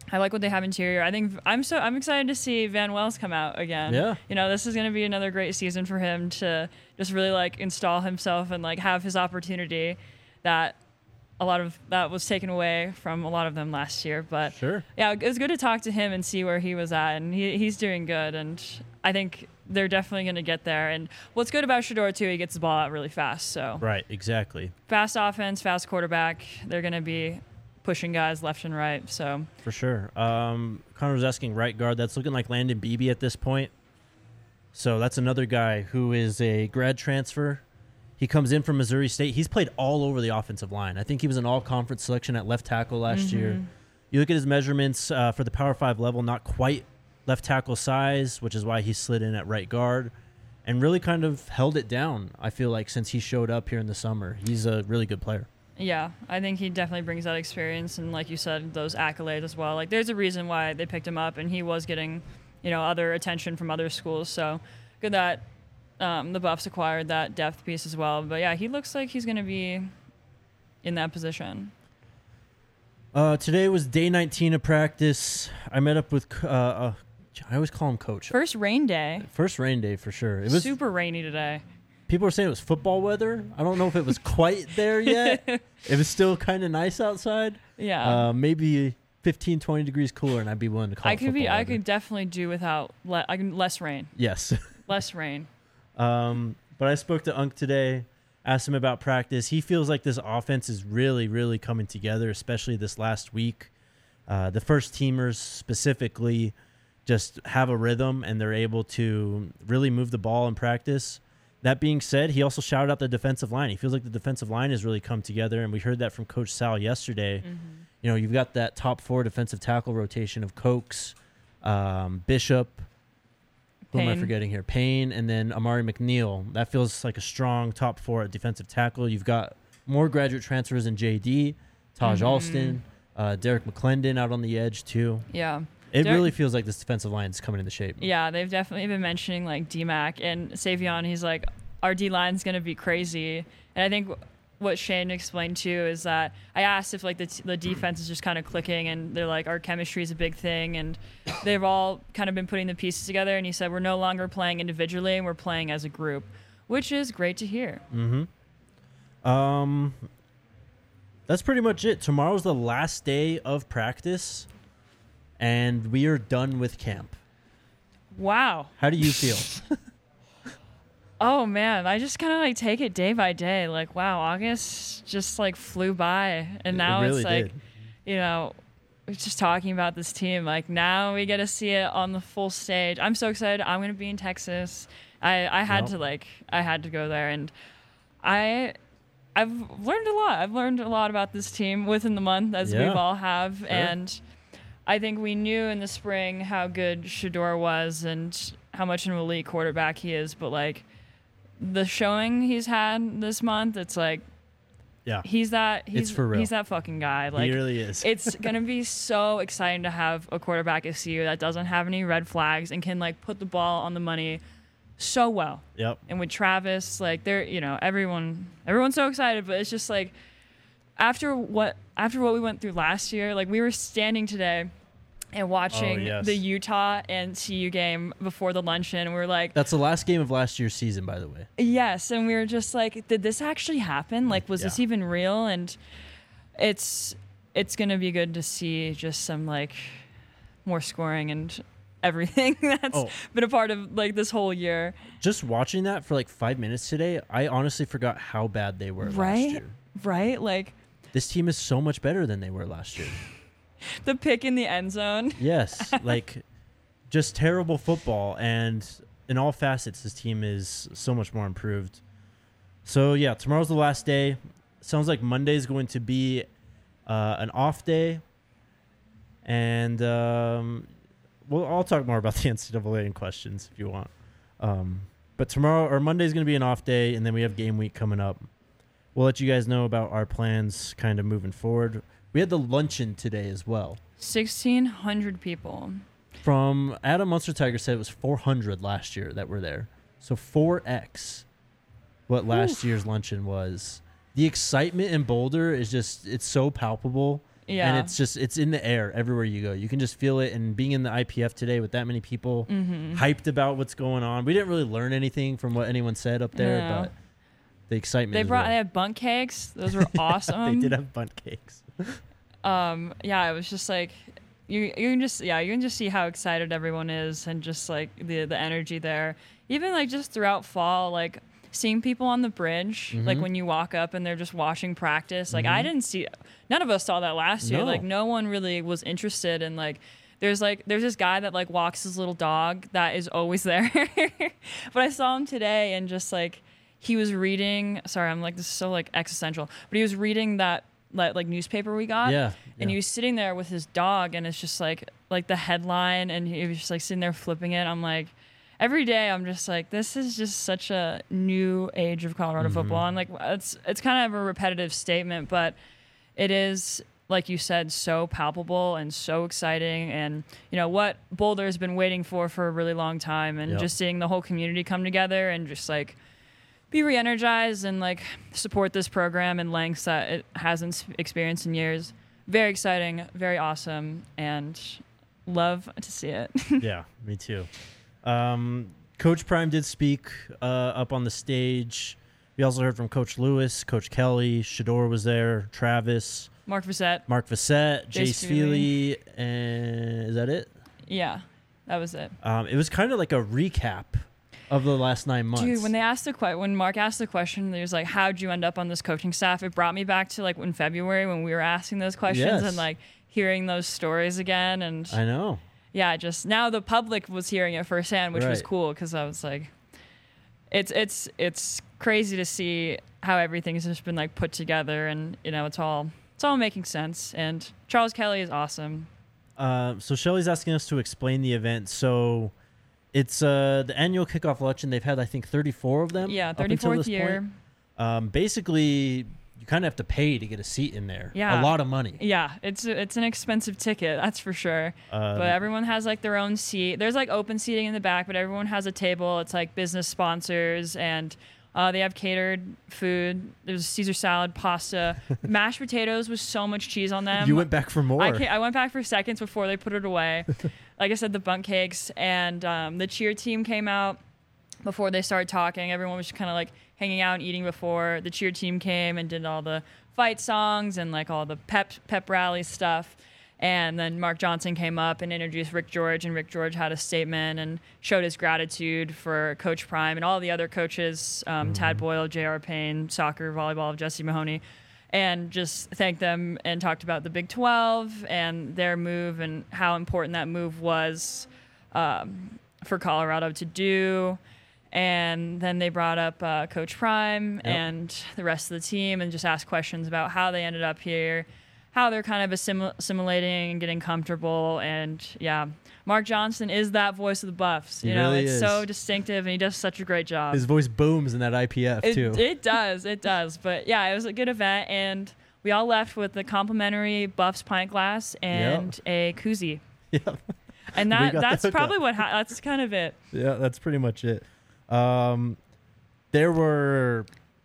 I like what they have interior. I think I'm excited to see Van Wells come out again. Yeah. You know, this is going to be another great season for him to just really like install himself and like have his opportunity that a lot of that was taken away from a lot of them last year. But Sure. yeah, it was good to talk to him and see where he was at, and he's doing good. And I think they're definitely going to get there. And what's good about Shedeur too, he gets the ball out really fast. So Right. Exactly. fast offense, fast quarterback. They're going to be pushing guys left and right. So For sure. Connor was asking right guard. That's looking like Landon Beebe at this point. So that's another guy who is a grad transfer. He comes in from Missouri State. He's played all over the offensive line. I think he was an all-conference selection at left tackle last year. You look at his measurements for the Power 5 level, not quite left tackle size, which is why he slid in at right guard and really kind of held it down, I feel like, since he showed up here in the summer. He's a really good player. yeah, I think he definitely brings that experience and, like you said, those accolades as well. Like, there's a reason why they picked him up, and he was getting, you know, other attention from other schools. So good that the Buffs acquired that depth piece as well. But yeah, he looks like he's going to be in that position. Today was day 19 of practice. I met up with, I always call him Coach. First rain day. First rain day for sure. It was Super rainy today. People were saying it was football weather. I don't know if it was quite there yet. It was still kind of nice outside. Yeah. Maybe 15, 20 degrees cooler, and I'd be willing to call it football I weather. could definitely do without less rain. Yes. Less rain. But I spoke to Unk today, asked him about practice. He feels like this offense is really, really coming together, especially this last week. The first teamers specifically just have a rhythm, and they're able to really move the ball in practice. That being said, he also shouted out the defensive line. He feels like the defensive line has really come together, and we heard that from Coach Sal yesterday. You know, you've got that top 4 defensive tackle rotation of Cokes, Bishop, who am I Payne. forgetting here? Payne, and then Amari McNeil. That feels like a strong top 4 at defensive tackle. You've got more graduate transfers in JD, Taj Alston, Derek McClendon out on the edge too. Yeah. It really feels like this defensive line is coming into shape. Yeah, they've definitely been mentioning like DMAC and Savion. He's like, our D line's gonna be crazy, and I think what Shane explained too is that I asked if like the defense is just kind of clicking, and they're like, our chemistry is a big thing, and they've all kind of been putting the pieces together. And he said we're no longer playing individually, and we're playing as a group, which is great to hear. That's pretty much it. Tomorrow's the last day of practice, and we are done with camp. Wow. How do you feel? Oh man, I just kind of like take it day by day. Like, wow, August just like flew by, and now really it's like, did. you know, we're just talking about this team. Like now we get to see it on the full stage. I'm so excited. I'm gonna be in Texas. I had Yep. I had to go there, and I've learned a lot. I've learned a lot about this team within the month, as Yeah. we've all have, Sure. and I think we knew in the spring how good Shedeur was and how much an elite quarterback he is, but like the showing he's had this month, it's like Yeah, he's that for real. he's that fucking guy. Like he really is. it's gonna be so exciting to have a quarterback at CU that doesn't have any red flags and can like put the ball on the money so well. Yep. And with Travis, like they're, you know, everyone's so excited, but it's just like after what we went through last year, like we were standing today and watching yes. the Utah and CU game before the luncheon, and we were like, That's the last game of last year's season, by the way. yes, and we were just like, did this actually happen? Like, was this Yeah. even real? And it's gonna be good to see just some like more scoring and everything that's been a part of like this whole year. Just watching that for like 5 minutes today, I honestly forgot how bad they were last Right? year. Right? Like This team is so much better than they were last year. the pick in the end zone. Yes, like just terrible football, and in all facets, this team is so much more improved. So yeah, tomorrow's the last day. Sounds like Monday is going to be an off day, and well, I'll talk more about the NCAA in questions if you want. But tomorrow or Monday is going to be an off day, and then we have game week coming up. We'll let you guys know about our plans kind of moving forward. We had the luncheon today as well. 1,600 people. From Adam Munster Tiger said it was 400 last year that were there. So 4x what last year's luncheon was. The excitement in Boulder is just, it's so palpable. Yeah. And it's in the air everywhere you go. You can just feel it. And being in the IPF today with that many people hyped about what's going on, we didn't really learn anything from what anyone said up there, but the excitement. They had bundt cakes. Those were awesome. They did have bundt cakes. Yeah, it was just like you can just see how excited everyone is, and just like the energy there. Even like just throughout fall, like seeing people on the bridge, like when you walk up and they're just watching practice. Like none of us saw that last year. Like no one really was interested in like. There's this guy that like walks his little dog that is always there. But I saw him today, and just like he was reading. Sorry, I'm like, this is so like existential. But he was reading that like newspaper we got. Yeah. And he was sitting there with his dog, and it's just like the headline, and he was just like sitting there flipping it. I'm like, every day I'm just like, this is just such a new age of Colorado football. And like it's kind of a repetitive statement, but it is, like you said, so palpable and so exciting, and you know what Boulder has been waiting for a really long time, and just seeing the whole community come together and just like be re-energized and like support this program in lengths that it hasn't experienced in years. Very exciting, very awesome, and love to see it. Yeah, me too. Coach Prime did speak up on the stage. We also heard from Coach Lewis, Coach Kelly, Shedeur was there, Travis, Mark Vissett, Jace Feely, and is that it? Yeah, that was it. It was kind of like a recap of the last 9 months. Dude, when Mark asked the question, he was like, how'd you end up on this coaching staff? It brought me back to like in February when we were asking those questions and like hearing those stories again. And I know. Yeah, just now the public was hearing it firsthand, which was cool, because I was like, it's crazy to see how everything's just been like put together, and you know it's all making sense. And Charles Kelly is awesome. So Shelly's asking us to explain the event. So it's the annual kickoff luncheon. They've had, I think, 34 of them. Yeah, 34th year. Basically, you kind of have to pay to get a seat in there. Yeah. A lot of money. Yeah, it's an expensive ticket, that's for sure. But everyone has like their own seat. There's like open seating in the back, but everyone has a table. It's like business sponsors, and they have catered food. There's Caesar salad, pasta, mashed potatoes with so much cheese on them. You went back for more. I went back for seconds before they put it away. Like I said, the bundt cakes, and the cheer team came out before they started talking. Everyone was just kind of like hanging out and eating before the cheer team came and did all the fight songs and like all the pep rally stuff. And then Mark Johnson came up and introduced Rick George, and Rick George had a statement and showed his gratitude for Coach Prime and all the other coaches, Tad Boyle, J.R. Payne, soccer, volleyball, Jesse Mahoney, and just thanked them and talked about the Big 12 and their move and how important that move was for Colorado to do. And then they brought up Coach Prime and the rest of the team, and just asked questions about how they ended up here, how they're kind of assimilating and getting comfortable. And yeah, Mark Johnson is that voice of the Buffs. You know, it's so distinctive, and he does such a great job. His voice booms in that IPF too. It does. But yeah, it was a good event, and we all left with a complimentary Buffs pint glass and a koozie. Yep. And that's probably that's kind of it. Yeah, that's pretty much it. There were,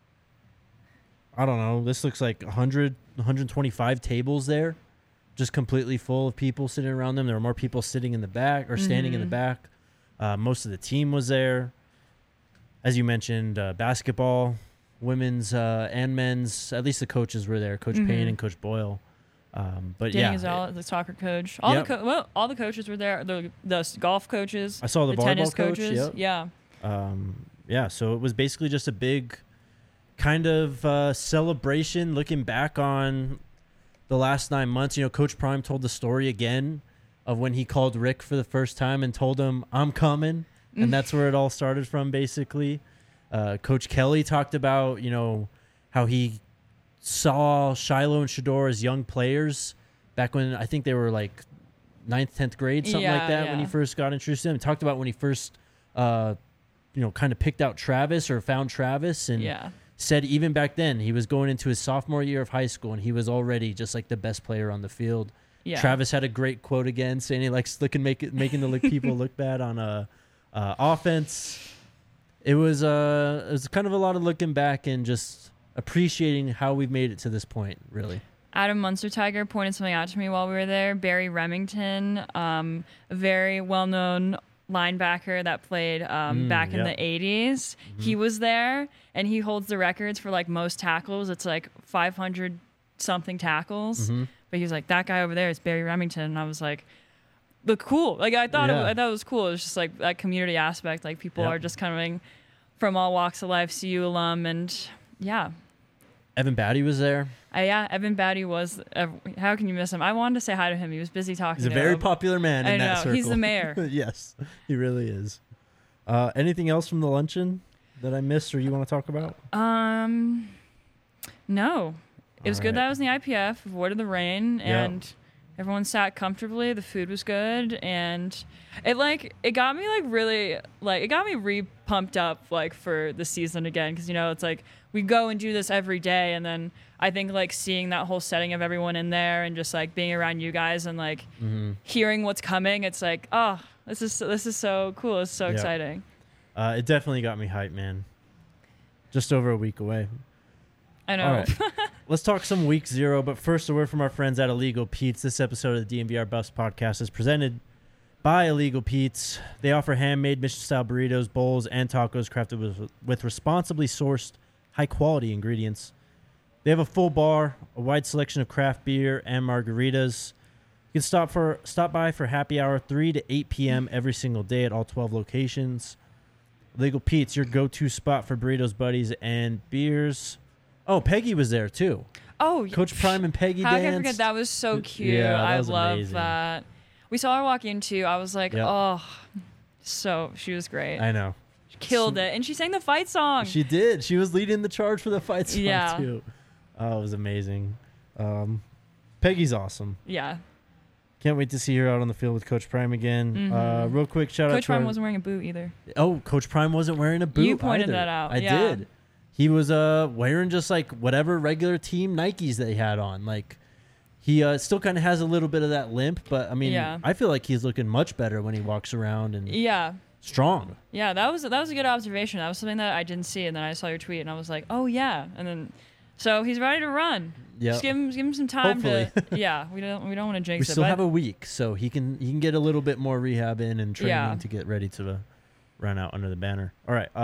I don't know, this looks like 100, 125 tables there, just completely full of people sitting around them. There were more people sitting in the back or standing in the back. Most of the team was there. As you mentioned, basketball, women's and men's, at least the coaches were there, Coach Payne and Coach Boyle. But Danny Gonzalez, the soccer coach. All the coaches were there. The golf coaches. I saw the volleyball tennis coach. coaches. Yep. Yeah. So it was basically just a big kind of celebration looking back on the last 9 months. You know, Coach Prime told the story again of when he called Rick for the first time and told him, I'm coming. And that's where it all started from, basically. Coach Kelly talked about, you know, how he saw Shiloh and Shedeur as young players back when I think they were like 9th, 10th grade, something like that, when he first got introduced to them. He talked about when he first kind of picked out Travis or found Travis, and said even back then he was going into his sophomore year of high school and he was already just like the best player on the field. Yeah. Travis had a great quote again saying he likes making the people look bad on offense. It was kind of a lot of looking back and just appreciating how we've made it to this point, really. Adam Munster Tiger pointed something out to me while we were there. Barry Remington, a very well-known linebacker that played back in the 80s. He was there, and he holds the records for like most tackles. It's like 500 something tackles. But he was like, that guy over there is Barry Remington, and I was like, look cool. Like I thought it was cool. It was just like that community aspect. Like people are just coming from all walks of life, CU alum, and yeah. Evan Batty was there. Evan Batty was. How can you miss him? I wanted to say hi to him. He was busy talking. He's a very popular man in that circle. He's the mayor. Yes, he really is. Anything else from the luncheon that I missed or you want to talk about? No. It was good that I was in the IPF, avoided the rain, and everyone sat comfortably. The food was good, and it got me re-pumped up like for the season again, because it's like we go and do this every day, and then I think like seeing that whole setting of everyone in there and just like being around you guys and like hearing what's coming, it's like, oh, this is so cool. It's so exciting. It definitely got me hyped, man. Just over a week away. I know. All right. Let's talk some week 0, but first a word from our friends at Illegal Pete's. This episode of the DNVR Buffs podcast is presented by Illegal Pete's. They offer handmade Mission-style burritos, bowls, and tacos crafted with responsibly sourced, high-quality ingredients. They have a full bar, a wide selection of craft beer, and margaritas. You can stop by for happy hour 3 to 8 p.m. every single day at all 12 locations. Illegal Pete's, your go-to spot for burritos, buddies, and beers. Oh, Peggy was there too. Oh, Coach Prime and Peggy How danced. can I forget? That was so cute. Yeah, that was I love amazing. that. We saw her walk in too. I was like, so she was great. I know. She killed it. And she sang the fight song. She did. She was leading the charge for the fight song too. Oh, it was amazing. Peggy's awesome. Yeah. Can't wait to see her out on the field with Coach Prime again. Real quick shout out to Coach Prime wasn't wearing a boot either. Oh, Coach Prime wasn't wearing a boot. You pointed either. that out. I did. He was wearing just like whatever regular team Nikes that he had on. Like he still kind of has a little bit of that limp, but I mean, I feel like he's looking much better when he walks around and strong. Yeah, that was a good observation. That was something that I didn't see, and then I saw your tweet, and I was like, oh yeah, and then so he's ready to run. Yeah, just give him some time. Hopefully. We don't want to jinx it. We it. still have a week, so he can get a little bit more rehab in and training to get ready to run out under the banner. All right.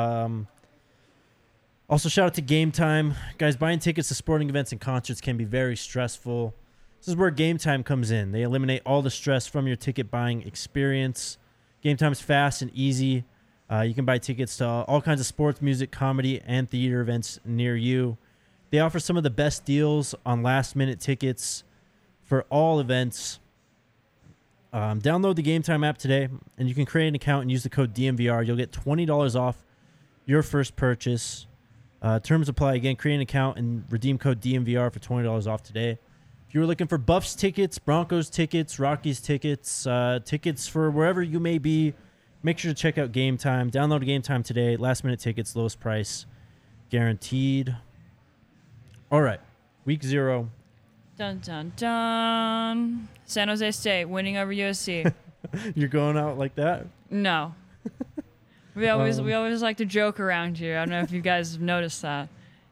Also, shout out to Game Time. Guys, buying tickets to sporting events and concerts can be very stressful. This is where Game Time comes in. They eliminate all the stress from your ticket buying experience. Game Time is fast and easy. You can buy tickets to all kinds of sports, music, comedy, and theater events near you. They offer some of the best deals on last-minute tickets for all events. Download the Game Time app today, and you can create an account and use the code DNVR. You'll get $20 off your first purchase. Terms apply. Again, create an account and redeem code DNVR for $20 off today. If you were looking for Buffs tickets, Broncos tickets, Rockies tickets, tickets for wherever you may be, make sure to check out Game Time. Download Game Time today. Last-minute tickets, lowest price, guaranteed. All right, week 0. Dun, dun, dun. San Jose State winning over USC. You're going out like that? No. We always like to joke around here. I don't know if you guys have noticed that.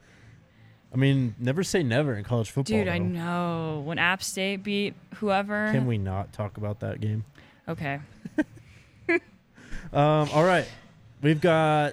I mean, never say never in college football. Dude, though. I know. When App State beat whoever. Can we not talk about that game? Okay. All right. We've got,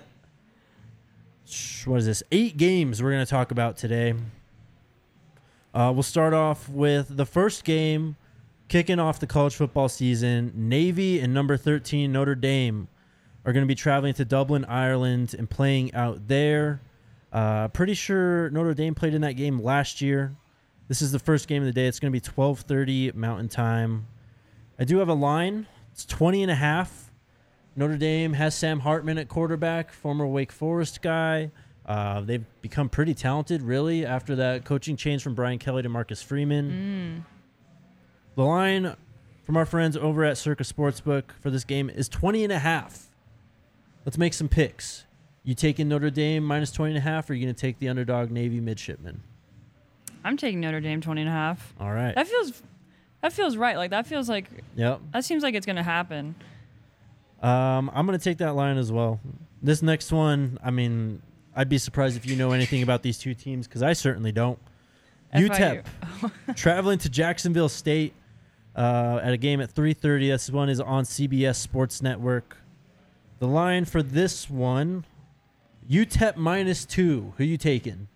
8 games we're going to talk about today. We'll start off with the first game, kicking off the college football season. Navy and number 13 Notre Dame are going to be traveling to Dublin, Ireland, and playing out there. Pretty sure Notre Dame played in that game last year. This is the first game of the day. It's going to be 12:30 Mountain Time. I do have a line. It's 20.5. Notre Dame has Sam Hartman at quarterback, former Wake Forest guy. They've become pretty talented, really, after that coaching change from Brian Kelly to Marcus Freeman. The line from our friends over at Circa Sportsbook for this game is 20.5. Let's make some picks. You taking Notre Dame minus 20.5, or are you going to take the underdog Navy midshipmen? I'm taking Notre Dame 20.5. All right. That feels right. Like that feels like. Yep. That seems like it's going to happen. I'm going to take that line as well. This next one, I mean, I'd be surprised if you know anything about these two teams because I certainly don't. UTEP traveling to Jacksonville State at a game at 3:30. This one is on CBS Sports Network. The line for this one, UTEP -2. Who you taking?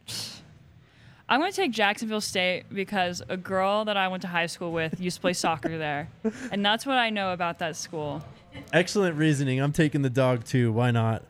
I'm going to take Jacksonville State because a girl that I went to high school with used to play soccer there. And that's what I know about that school. Excellent reasoning. I'm taking the dog too. Why not?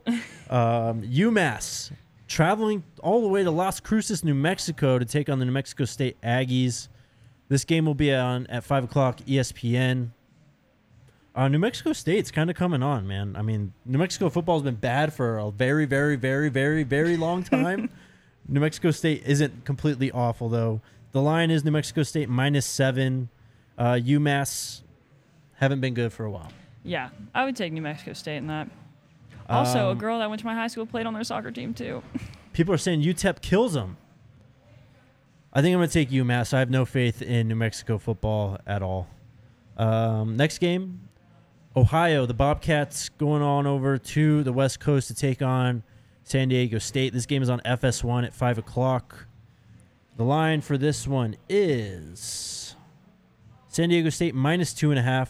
UMass traveling all the way to Las Cruces, New Mexico to take on the New Mexico State Aggies. This game will be on at 5 o'clock ESPN. New Mexico State's kind of coming on, man. I mean, New Mexico football has been bad for a very, very, very, very, very long time. New Mexico State isn't completely awful, though. The line is New Mexico State -7. UMass haven't been good for a while. Yeah, I would take New Mexico State in that. Also, a girl that went to my high school played on their soccer team, too. People are saying UTEP kills them. I think I'm going to take UMass. I have no faith in New Mexico football at all. Next game, Ohio. The Bobcats going on over to the West Coast to take on San Diego State. This game is on FS1 at 5 o'clock. The line for this one is San Diego State -2.5.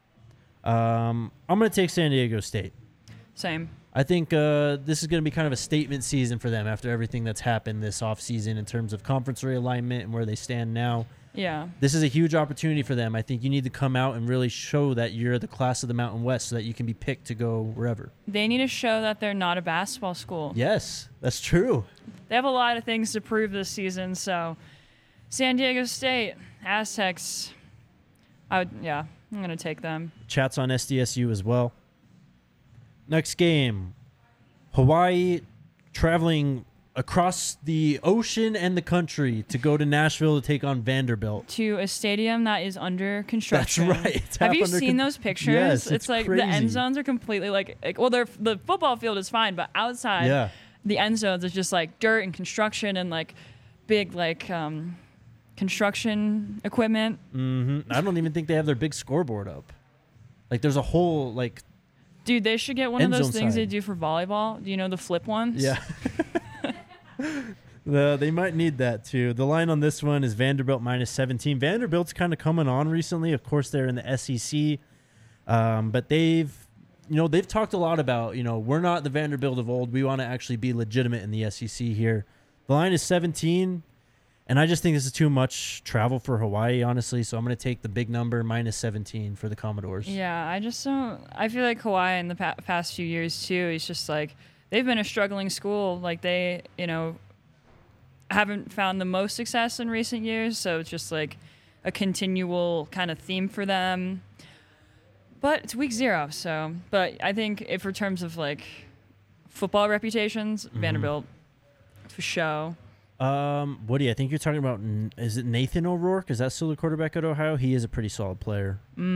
I'm going to take San Diego State. Same. I think this is going to be kind of a statement season for them after everything that's happened this offseason in terms of conference realignment and where they stand now. Yeah. This is a huge opportunity for them. I think you need to come out and really show that you're the class of the Mountain West so that you can be picked to go wherever. They need to show that they're not a basketball school. Yes, that's true. They have a lot of things to prove this season, so San Diego State, Aztecs, I'm going to take them. Chat's on SDSU as well. Next game, Hawaii traveling across the ocean and the country to go to Nashville to take on Vanderbilt. To a stadium that is under construction. That's right. It's Have you seen those pictures? Yes, it's like crazy. the end zones are completely the football field is fine, but outside the end zones is just like dirt and construction and like big construction equipment. Mm-hmm. I don't even think they have their big scoreboard up. Like there's a whole like. Dude, they should get one of those things they do for volleyball. Do you know the flip ones? Yeah. They might need that too. The line on this one is Vanderbilt -17. Vanderbilt's kind of coming on recently. Of course, they're in the SEC, but they've talked a lot about we're not the Vanderbilt of old. We want to actually be legitimate in the SEC here. The line is 17, and I just think this is too much travel for Hawaii, honestly. So I'm going to take the big number -17 for the Commodores. Yeah, I just don't. I feel like Hawaii in the past few years too. It's just like they've been a struggling school. Like they, haven't found the most success in recent years. So it's just like a continual kind of theme for them. But it's week 0. So, but I think if in terms of like football reputations, Vanderbilt for show. Woody, I think you're talking about, is it Nathan O'Rourke? Is that still the quarterback at Ohio? He is a pretty solid player.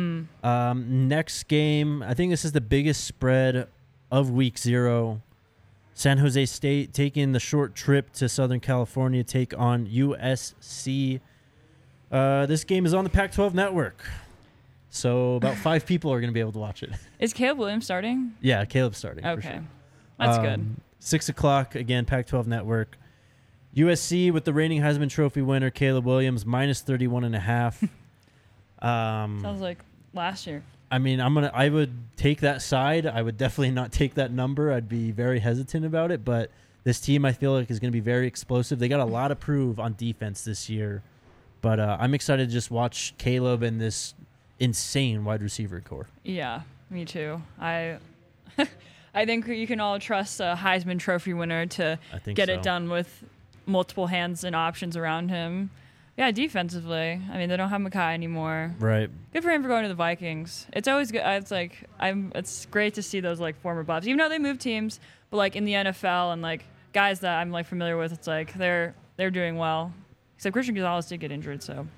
Next game, I think this is the biggest spread of week 0. San Jose State taking the short trip to Southern California, take on USC. This game is on the Pac-12 network. So about 5 people are going to be able to watch it. Is Caleb Williams starting? Yeah, Caleb's starting. Okay. For sure. That's good. 6 o'clock, again, Pac-12 network. USC with the reigning Heisman Trophy winner, Caleb Williams, -31.5. Sounds like last year. I mean, I would take that side. I would definitely not take that number. I'd be very hesitant about it. But this team, I feel like, is going to be very explosive. They got a lot to prove on defense this year. But I'm excited to just watch Caleb and this insane wide receiver core. Yeah, me too. I think you can all trust a Heisman Trophy winner to get it done with multiple hands and options around him. Yeah, defensively. I mean, they don't have Mekhi anymore. Right. Good for him for going to the Vikings. It's always good. It's great to see those like former Buffs, even though they move teams. But like in the NFL and like guys that I'm like familiar with, it's like they're doing well. Except Christian Gonzalez did get injured, so.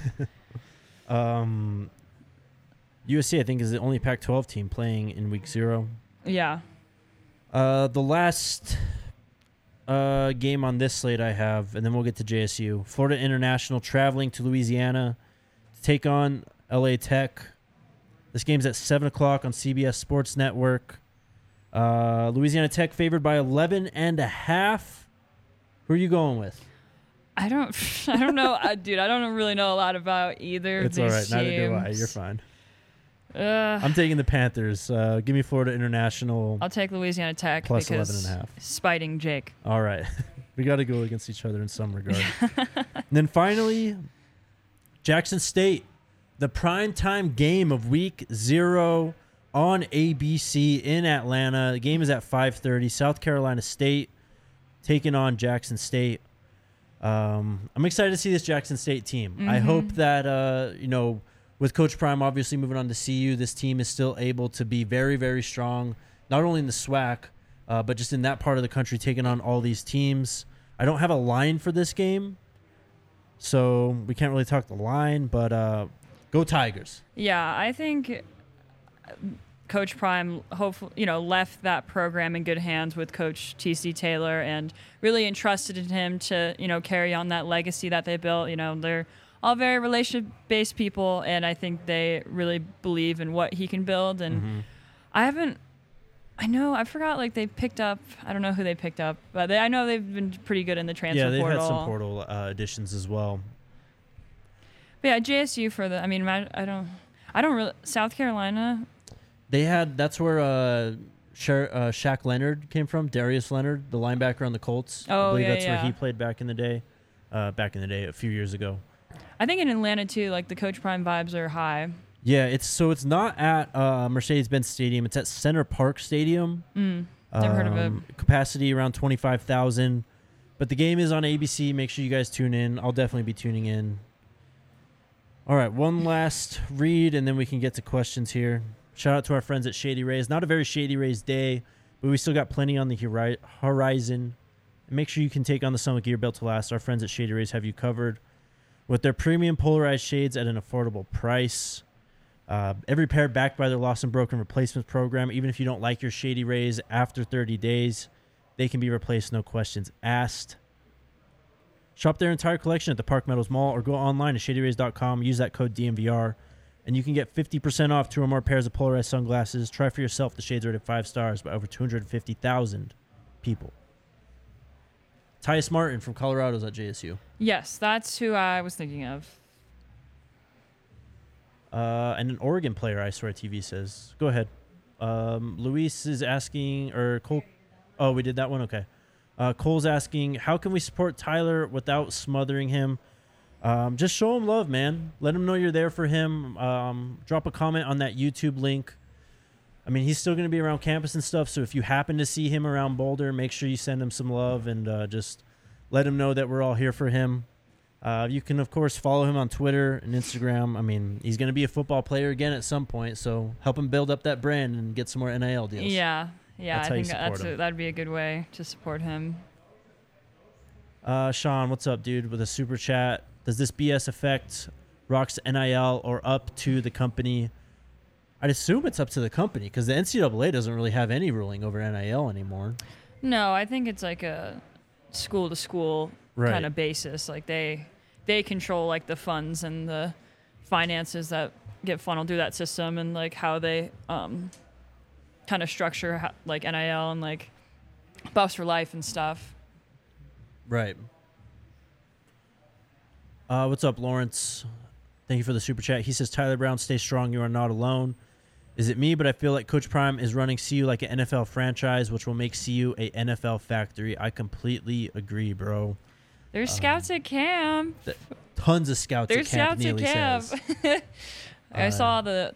USC, I think, is the only Pac-12 team playing in week 0. Yeah. The last game on this slate I have, and then we'll get to JSU. Florida International traveling to Louisiana to take on LA Tech. This game's at 7 o'clock on CBS Sports Network. Louisiana Tech favored by 11.5. Who are you going with? I don't know, dude. I don't really know a lot about either of It's these all right. teams. Neither do I. You're fine. I'm taking the Panthers. Give me Florida International. I'll take Louisiana Tech Plus because 11.5. spiting Jake. All right. We got to go against each other in some regard. And then finally, Jackson State, the primetime game of week 0 on ABC in Atlanta. The game is at 5:30. South Carolina State taking on Jackson State. I'm excited to see this Jackson State team. I hope that, with Coach Prime obviously moving on to CU, this team is still able to be very, very strong, not only in the SWAC, but just in that part of the country, taking on all these teams. I don't have a line for this game, so we can't really talk the line, but go Tigers. Yeah, I think Coach Prime hopefully, left that program in good hands with Coach TC Taylor and really entrusted in him to, carry on that legacy that they built. They're all very relationship-based people, and I think they really believe in what he can build. And I forgot, they picked up, I don't know who they picked up, but I know they've been pretty good in the transfer portal. Yeah, they've had some portal additions as well. But yeah, JSU I don't really, South Carolina. That's where Shaq Leonard came from, Darius Leonard, the linebacker on the Colts. Oh, I believe yeah, that's where he played back in the day, a few years ago. I think in Atlanta, too, the Coach Prime vibes are high. Yeah, it's not at Mercedes-Benz Stadium. It's at Center Park Stadium. Never heard of it. Capacity around 25,000. But the game is on ABC. Make sure you guys tune in. I'll definitely be tuning in. All right, one last read, and then we can get to questions here. Shout out to our friends at Shady Rays. Not a very Shady Rays day, but we still got plenty on the horizon. And make sure you can take on the Summit Gear built to last. Our friends at Shady Rays have you covered with their premium polarized shades at an affordable price. Every pair backed by their lost and broken replacements program. Even if you don't like your Shady Rays after 30 days, they can be replaced, no questions asked. Shop their entire collection at the Park Meadows Mall or go online to shadyrays.com. Use that code DMVR, and you can get 50% off 2 or more pairs of polarized sunglasses. Try for yourself. The shades rated 5 stars by over 250,000 people. Tyus Martin from Colorado's at JSU. Yes, that's who I was thinking of. And an Oregon player, I swear TV says. Go ahead. Luis is asking, or Cole. Oh, we did that one? Okay. Cole's asking, how can we support Tyler without smothering him? Just show him love, man. Let him know you're there for him. Drop a comment on that YouTube link. I mean, he's still going to be around campus and stuff, so if you happen to see him around Boulder, make sure you send him some love and just let him know that we're all here for him. You can, of course, follow him on Twitter and Instagram. I mean, he's going to be a football player again at some point, so help him build up that brand and get some more NIL deals. Yeah, That's I think that'd be a good way to support him. Sean, what's up, dude? With a super chat. Does this BS affect Rock's NIL or up to the company? I'd assume it's up to the company because the NCAA doesn't really have any ruling over NIL anymore. No, I think it's like a school-to-school kind of basis. Like they control the funds and the finances that get funneled through that system and how they kind of structure NIL and buffs for life and stuff. Right. What's up, Lawrence? Thank you for the super chat. He says, Tyler Brown, stay strong. You are not alone. Is it me? But I feel like Coach Prime is running CU like an NFL franchise, which will make CU a NFL factory. I completely agree, bro. There's scouts at camp. Tons of scouts There's at camp. There's scouts at camp. I saw the.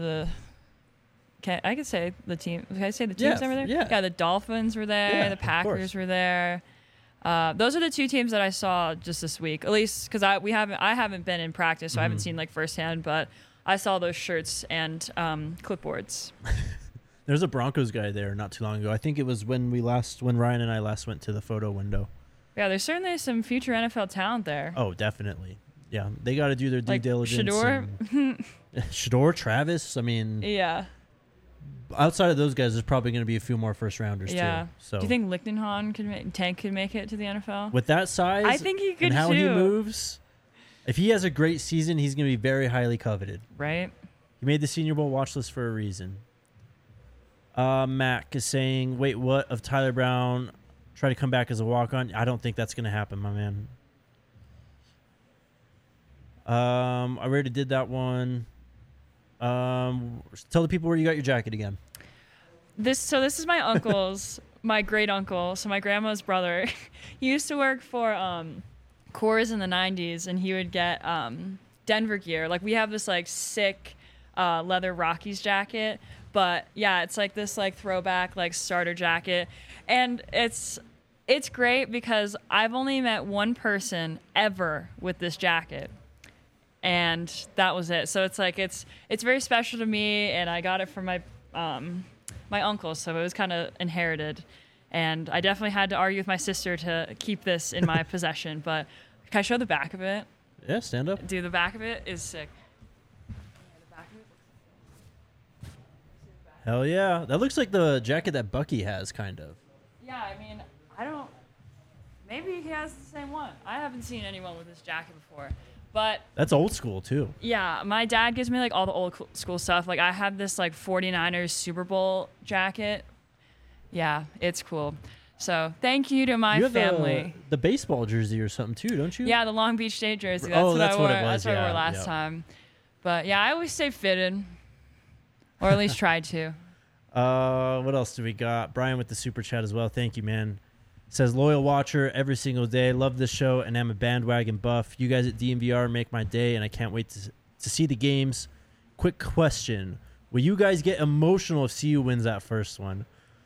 I could say the team. Can I say the teams that were there? Yeah. The Dolphins were there. The Packers were there. Those are the 2 teams that I saw just this week, at least because I haven't been in practice, so I haven't seen firsthand, but I saw those shirts and clipboards. There's a Broncos guy there not too long ago. I think it was when Ryan and I last went to the photo window. Yeah, there's certainly some future NFL talent there. Oh, definitely. Yeah, they got to do their due diligence. Shador, Shador, Travis. I mean, yeah. Outside of those guys, there's probably going to be a few more first rounders too. So, do you think Tank could make it to the NFL with that size? I think he could and how too. he moves. If he has a great season, he's going to be very highly coveted. Right. He made the Senior Bowl watch list for a reason. Mac is saying, "Wait, what? Of Tyler Brown try to come back as a walk-on? I don't think that's going to happen, my man. I already did that one. Tell the people where you got your jacket again. This is my uncle's, my great uncle. So my grandma's brother. He used to work for Coors in the 90s, and he would get Denver gear. Like, we have this like sick leather Rockies jacket, but yeah, it's like this like throwback like starter jacket, and it's great because I've only met one person ever with this jacket, and that was it. So it's like it's very special to me, and I got it from my my uncle, so it was kind of inherited. And I definitely had to argue with my sister to keep this in my possession. But can I show the back of it? Yeah, stand up. Dude, the back of it is sick. Hell yeah. That looks like the jacket that Bucky has, kind of. Yeah, I mean, I don't... Maybe he has the same one. I haven't seen anyone with this jacket before. But... That's old school, too. Yeah, my dad gives me, like, all the old school stuff. Like, I have this, like, 49ers Super Bowl jacket. Yeah, it's cool. So, thank you to my you have family. The baseball jersey or something, too, don't you? Yeah, the Long Beach State jersey. That's Oh, what that's I wore. what it was, That's what I wore yeah, last yeah. time. But, yeah, I always stay fitted. Or at least tried to. What else do we got? Brian with the super chat as well. Thank you, man. Says, loyal watcher every single day. Love this show, and I'm a bandwagon buff. You guys at DMVR make my day, and I can't wait to see the games. Quick question. Will you guys get emotional if CU wins that first one?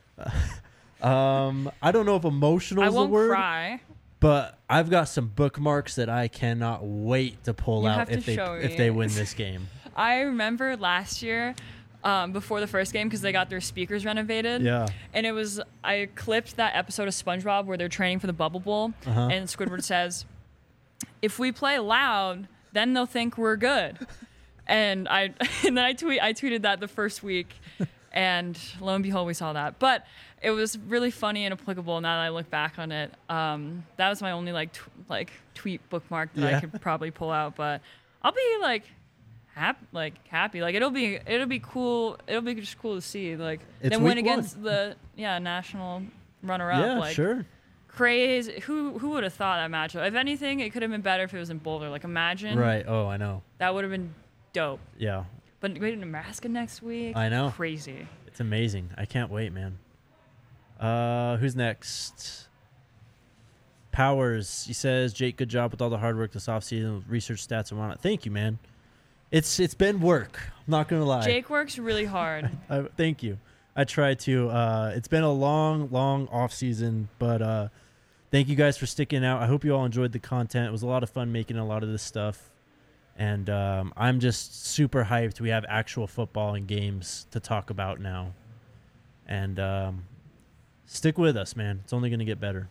I don't know if emotional is the word. I won't cry. But I've got some bookmarks that I cannot wait to pull You out have to show if me. they win this game. I remember last year, before the first game, because they got their speakers renovated. Yeah. And I clipped that episode of SpongeBob where they're training for the Bubble Bowl, and Squidward says, "If we play loud, then they'll think we're good." And then I tweeted that the first week, and lo and behold, we saw that. But it was really funny and applicable now that I look back on it. That was my only tweet bookmark that I could probably pull out. But I'll be happy. Like it'll be cool. It'll be just cool to see. Like It's then win week against one. the national runner-up. Yeah, like, sure. Crazy. Who would have thought that matchup? If anything, it could have been better if it was in Boulder. Like imagine. Right. Oh, I know. That would have been dope. Yeah. But wait, Nebraska next week. I know. Crazy. It's amazing. I can't wait, man. Who's next? Powers. He says, Jake, good job with all the hard work this offseason with research stats and whatnot. Thank you, man. It's been work. I'm not going to lie. Jake works really hard. Thank you. I try to. It's been a long off season, but thank you guys for sticking out. I hope you all enjoyed the content. It was a lot of fun making a lot of this stuff, and I'm just super hyped. We have actual football and games to talk about now, and stick with us, man. It's only going to get better.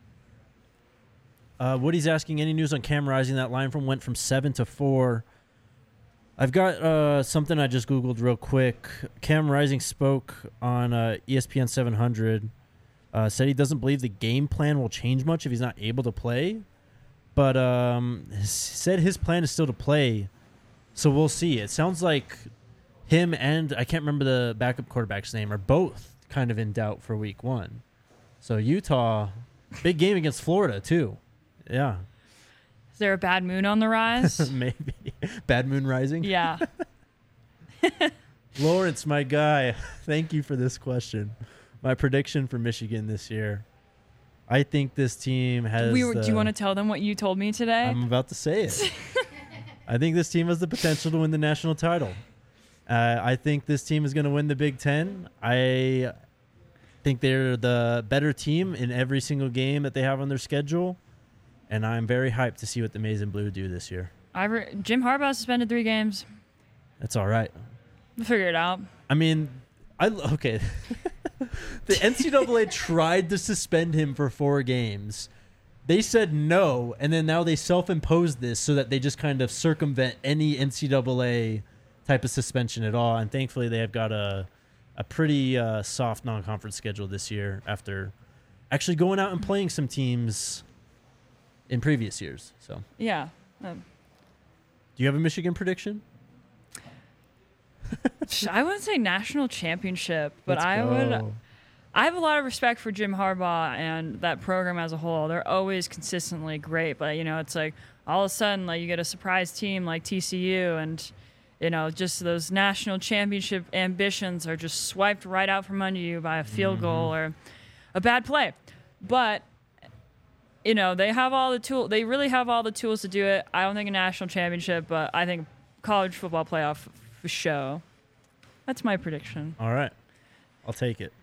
Woody's asking, any news on Cam Rising? That line went from 7 to 4. I've got something I just Googled real quick. Cam Rising spoke on ESPN 700, said he doesn't believe the game plan will change much if he's not able to play, but said his plan is still to play, so we'll see. It sounds like him and, I can't remember the backup quarterback's name, are both kind of in doubt for week 1. So Utah, big game against Florida too. Yeah. Is there a bad moon on the rise? Maybe. Bad moon rising? Yeah. Lawrence, my guy, thank you for this question. My prediction for Michigan this year. I think this team has... do you want to tell them what you told me today? I'm about to say it. I think this team has the potential to win the national title. I think this team is going to win the Big Ten. I think they're the better team in every single game that they have on their schedule. And I'm very hyped to see what the Maize and Blue do this year. Jim Harbaugh suspended 3 games. That's all right. We'll figure it out. I mean, okay. The NCAA tried to suspend him for 4 games. They said no, and then now they self-imposed this so that they just kind of circumvent any NCAA type of suspension at all. And thankfully, they have got a pretty soft non-conference schedule this year after actually going out and playing some teams in previous years. So Yeah. do you have a Michigan prediction? I wouldn't say national championship, but Let's I go. would. I have a lot of respect for Jim Harbaugh and that program as a whole. They're always consistently great, but it's like, all of a sudden, like, you get a surprise team like TCU, and just those national championship ambitions are just swiped right out from under you by a field goal or a bad play. But they have all the tools. They really have all the tools to do it. I don't think a national championship, but I think college football playoff for show. That's my prediction. All right. I'll take it.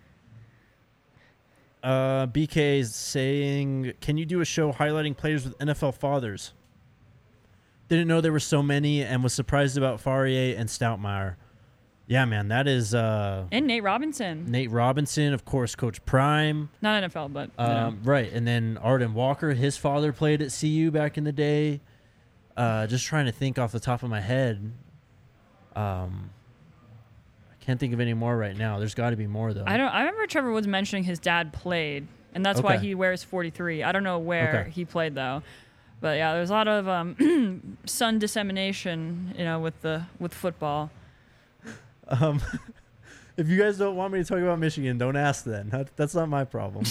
BK is saying, can you do a show highlighting players with NFL fathers? Didn't know there were so many and was surprised about Faurier and Stoutmire. Yeah, man, that is... and Nate Robinson. Nate Robinson, of course, Coach Prime. Not NFL, but... Right, and then Arden Walker, his father played at CU back in the day. Just trying to think off the top of my head. I can't think of any more right now. There's got to be more, though. I remember Trevor Woods mentioning his dad played, and that's why he wears 43. I don't know where he played, though. But, yeah, there's a lot of son dissemination, with football. If you guys don't want me to talk about Michigan, don't ask then. That's not my problem.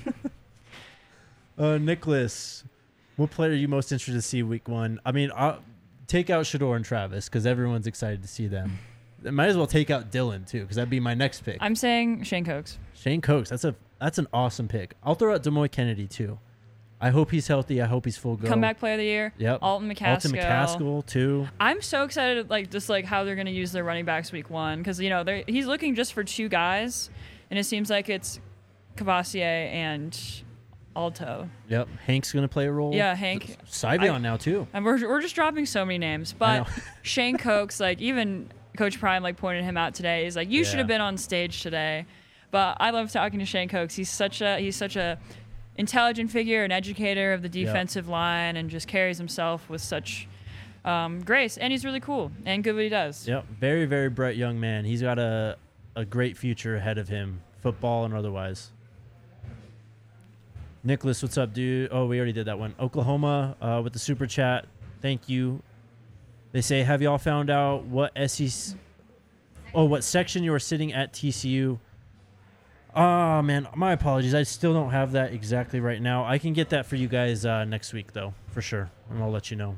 Nicholas, what player are you most interested to see week 1? I mean, take out Shedeur and Travis because everyone's excited to see them. Might as well take out Dylan too because that'd be my next pick. I'm saying Shane Cokes. Shane Cokes, that's an awesome pick. I'll throw out Demoy Kennedy too. I hope he's healthy. I hope he's full go. Comeback player of the year. Yep. Alton McCaskill. Alton McCaskill too. I'm so excited, just how they're going to use their running backs week 1 because he's looking just for 2 guys, and it seems like it's Cavassier and Alto. Yep. Hank's going to play a role. Yeah, Hank. Sybion now too. And we're just dropping so many names, but Shane Cokes, even Coach Prime pointed him out today. He's like, you should have been on stage today. But I love talking to Shane Cokes. He's such a intelligent figure, an educator of the defensive line, and just carries himself with such grace. And he's really cool and good at what he does. Yep. Very, very bright young man. He's got a great future ahead of him, football and otherwise. Nicholas, what's up, dude? Oh, we already did that one. Oklahoma with the super chat. Thank you. They say, have y'all found out what what section you are sitting at TCU? Oh, man, my apologies. I still don't have that exactly right now. I can get that for you guys next week, though, for sure, and I'll let you know.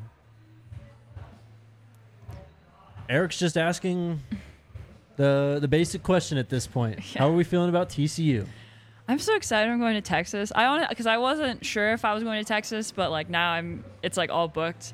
Eric's just asking the basic question at this point. Yeah. How are we feeling about TCU? I'm so excited I'm going to Texas. Because I wasn't sure if I was going to Texas, but now it's all booked.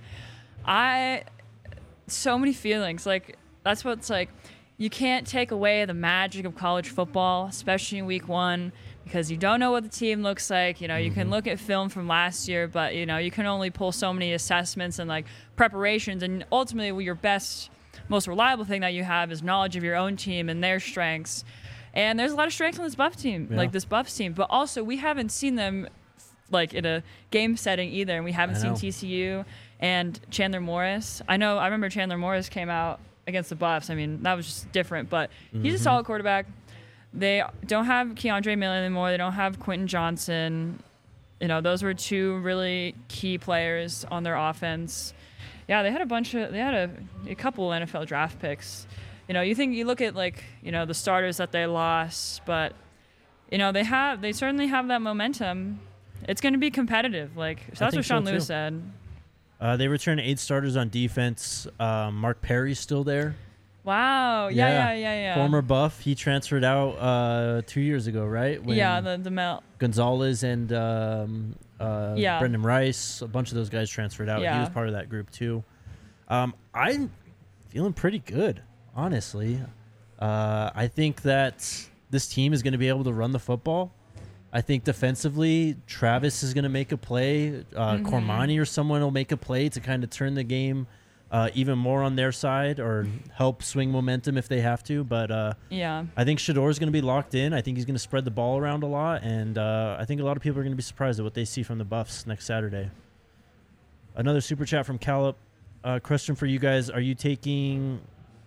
So many feelings. That's what's you can't take away the magic of college football, especially in week 1, because you don't know what the team looks like. You can look at film from last year, but you can only pull so many assessments and preparations, and ultimately your best, most reliable thing that you have is knowledge of your own team and their strengths. And there's a lot of strengths on this Buffs team, this Buffs team, but also we haven't seen them in a game setting either, and we haven't seen TCU and Chandler Morris. I remember Chandler Morris came out against the Buffs. I mean, that was just different, but he's a solid quarterback. They don't have Keandre Miller anymore. They don't have Quentin Johnson. Those were 2 really key players on their offense. Yeah, they had a couple NFL draft picks. You look at the starters that they lost, but they certainly have that momentum. It's going to be competitive. So that's what Sean Lewis said. They returned 8 starters on defense. Mark Perry's still there. Wow. Yeah. Former Buff. He transferred out 2 years ago, right? When the Mel Gonzalez and Brendan Rice, a bunch of those guys transferred out. Yeah. He was part of that group too. I'm feeling pretty good, honestly. I think that this team is going to be able to run the football. I think defensively, Travis is going to make a play. Cormani or someone will make a play to kind of turn the game even more on their side or help swing momentum if they have to. But I think Shedeur is going to be locked in. I think he's going to spread the ball around a lot. And I think a lot of people are going to be surprised at what they see from the Buffs next Saturday. Another super chat from Calip. Question for you guys. Are you taking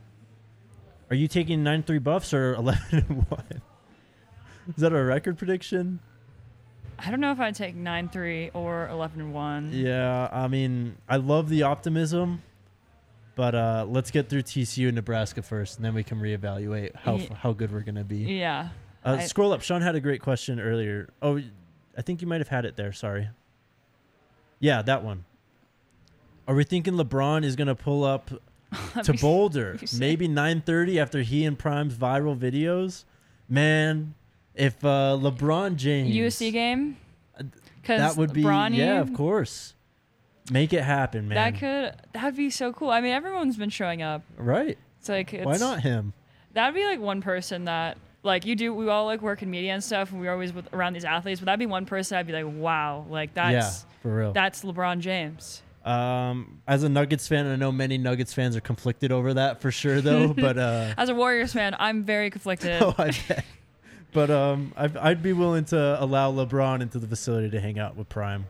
9-3 Buffs or 11-1? Is that a record prediction? I don't know if I'd take 9-3 or 11-1. Yeah, I mean, I love the optimism, but let's get through TCU and Nebraska first, and then we can reevaluate how good we're going to be. Yeah. Scroll up. Sean had a great question earlier. Oh, I think you might have had it there. Sorry. Yeah, that one. Are we thinking LeBron is gonna pull up to be Boulder? sick. Maybe 9:30 after he and Prime's viral videos. Man, if LeBron James USC game. Because that would be Bronny, of course. Make it happen, man. That'd be so cool. I mean, everyone's been showing up. Right. It's like Why not him? That'd be like one person that like you do. We all like work in media and stuff, and we're always around these athletes. But that'd be one person I'd be like, wow, like that's for real. That's LeBron James. As a Nuggets fan, I know many Nuggets fans are conflicted over that for sure, though. But as a Warriors fan, I'm very conflicted. oh, I bet. But I'd be willing to allow LeBron into the facility to hang out with Prime.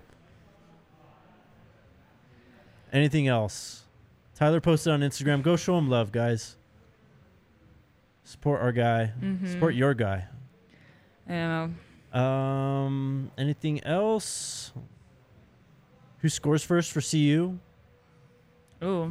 Anything else? Tyler posted on Instagram. Go show him love, guys. Support our guy. Support your guy. I Anything else? Who scores first for CU? Ooh,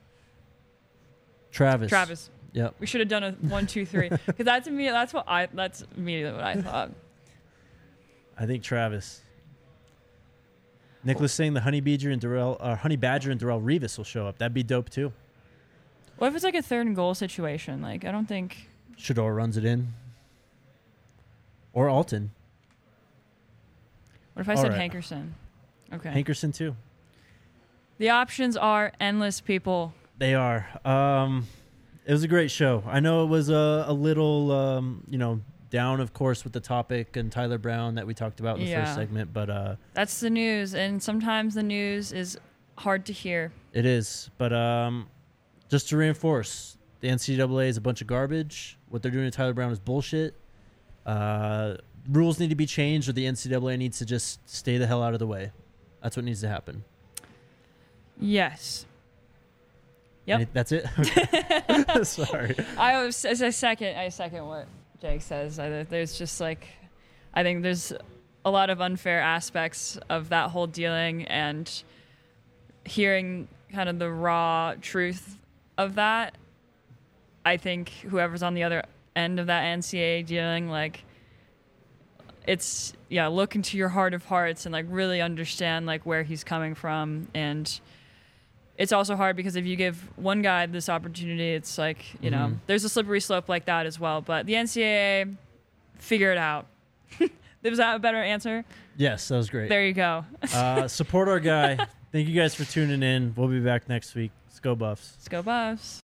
Travis. Travis. Yep. We should have done a 1, 2, 3 because that's immediately what I thought. I think Travis. Nicholas saying the Honey Badger and Darrell Revis will show up. That'd be dope too. What if it's like a 3rd and goal situation? Like I don't think Shador runs it in. Or Alton. What if I All said right. Hankerson? Okay. Hankerson too. The options are endless, people. They are. It was a great show. I know it was a little, down, of course, with the topic and Tyler Brown that we talked about in the first segment. But that's the news, and sometimes the news is hard to hear. it is. But just to reinforce, the NCAA is a bunch of garbage. What they're doing to Tyler Brown is bullshit. Rules need to be changed, or the NCAA needs to just stay the hell out of the way. That's what needs to happen. Yes. Yep. That's it? Okay. Sorry. I second what Jake says. There's just like, I think there's a lot of unfair aspects of that whole dealing, and hearing kind of the raw truth of that. I think whoever's on the other end of that NCAA dealing, like, it's look into your heart of hearts and like really understand like where he's coming from. And it's also hard because if you give one guy this opportunity, it's like, there's a slippery slope like that as well. But the NCAA, figure it out. Was that a better answer? Yes, that was great. There you go. Support our guy. Thank you guys for tuning in. We'll be back next week. Let's go Buffs. Let's go Buffs.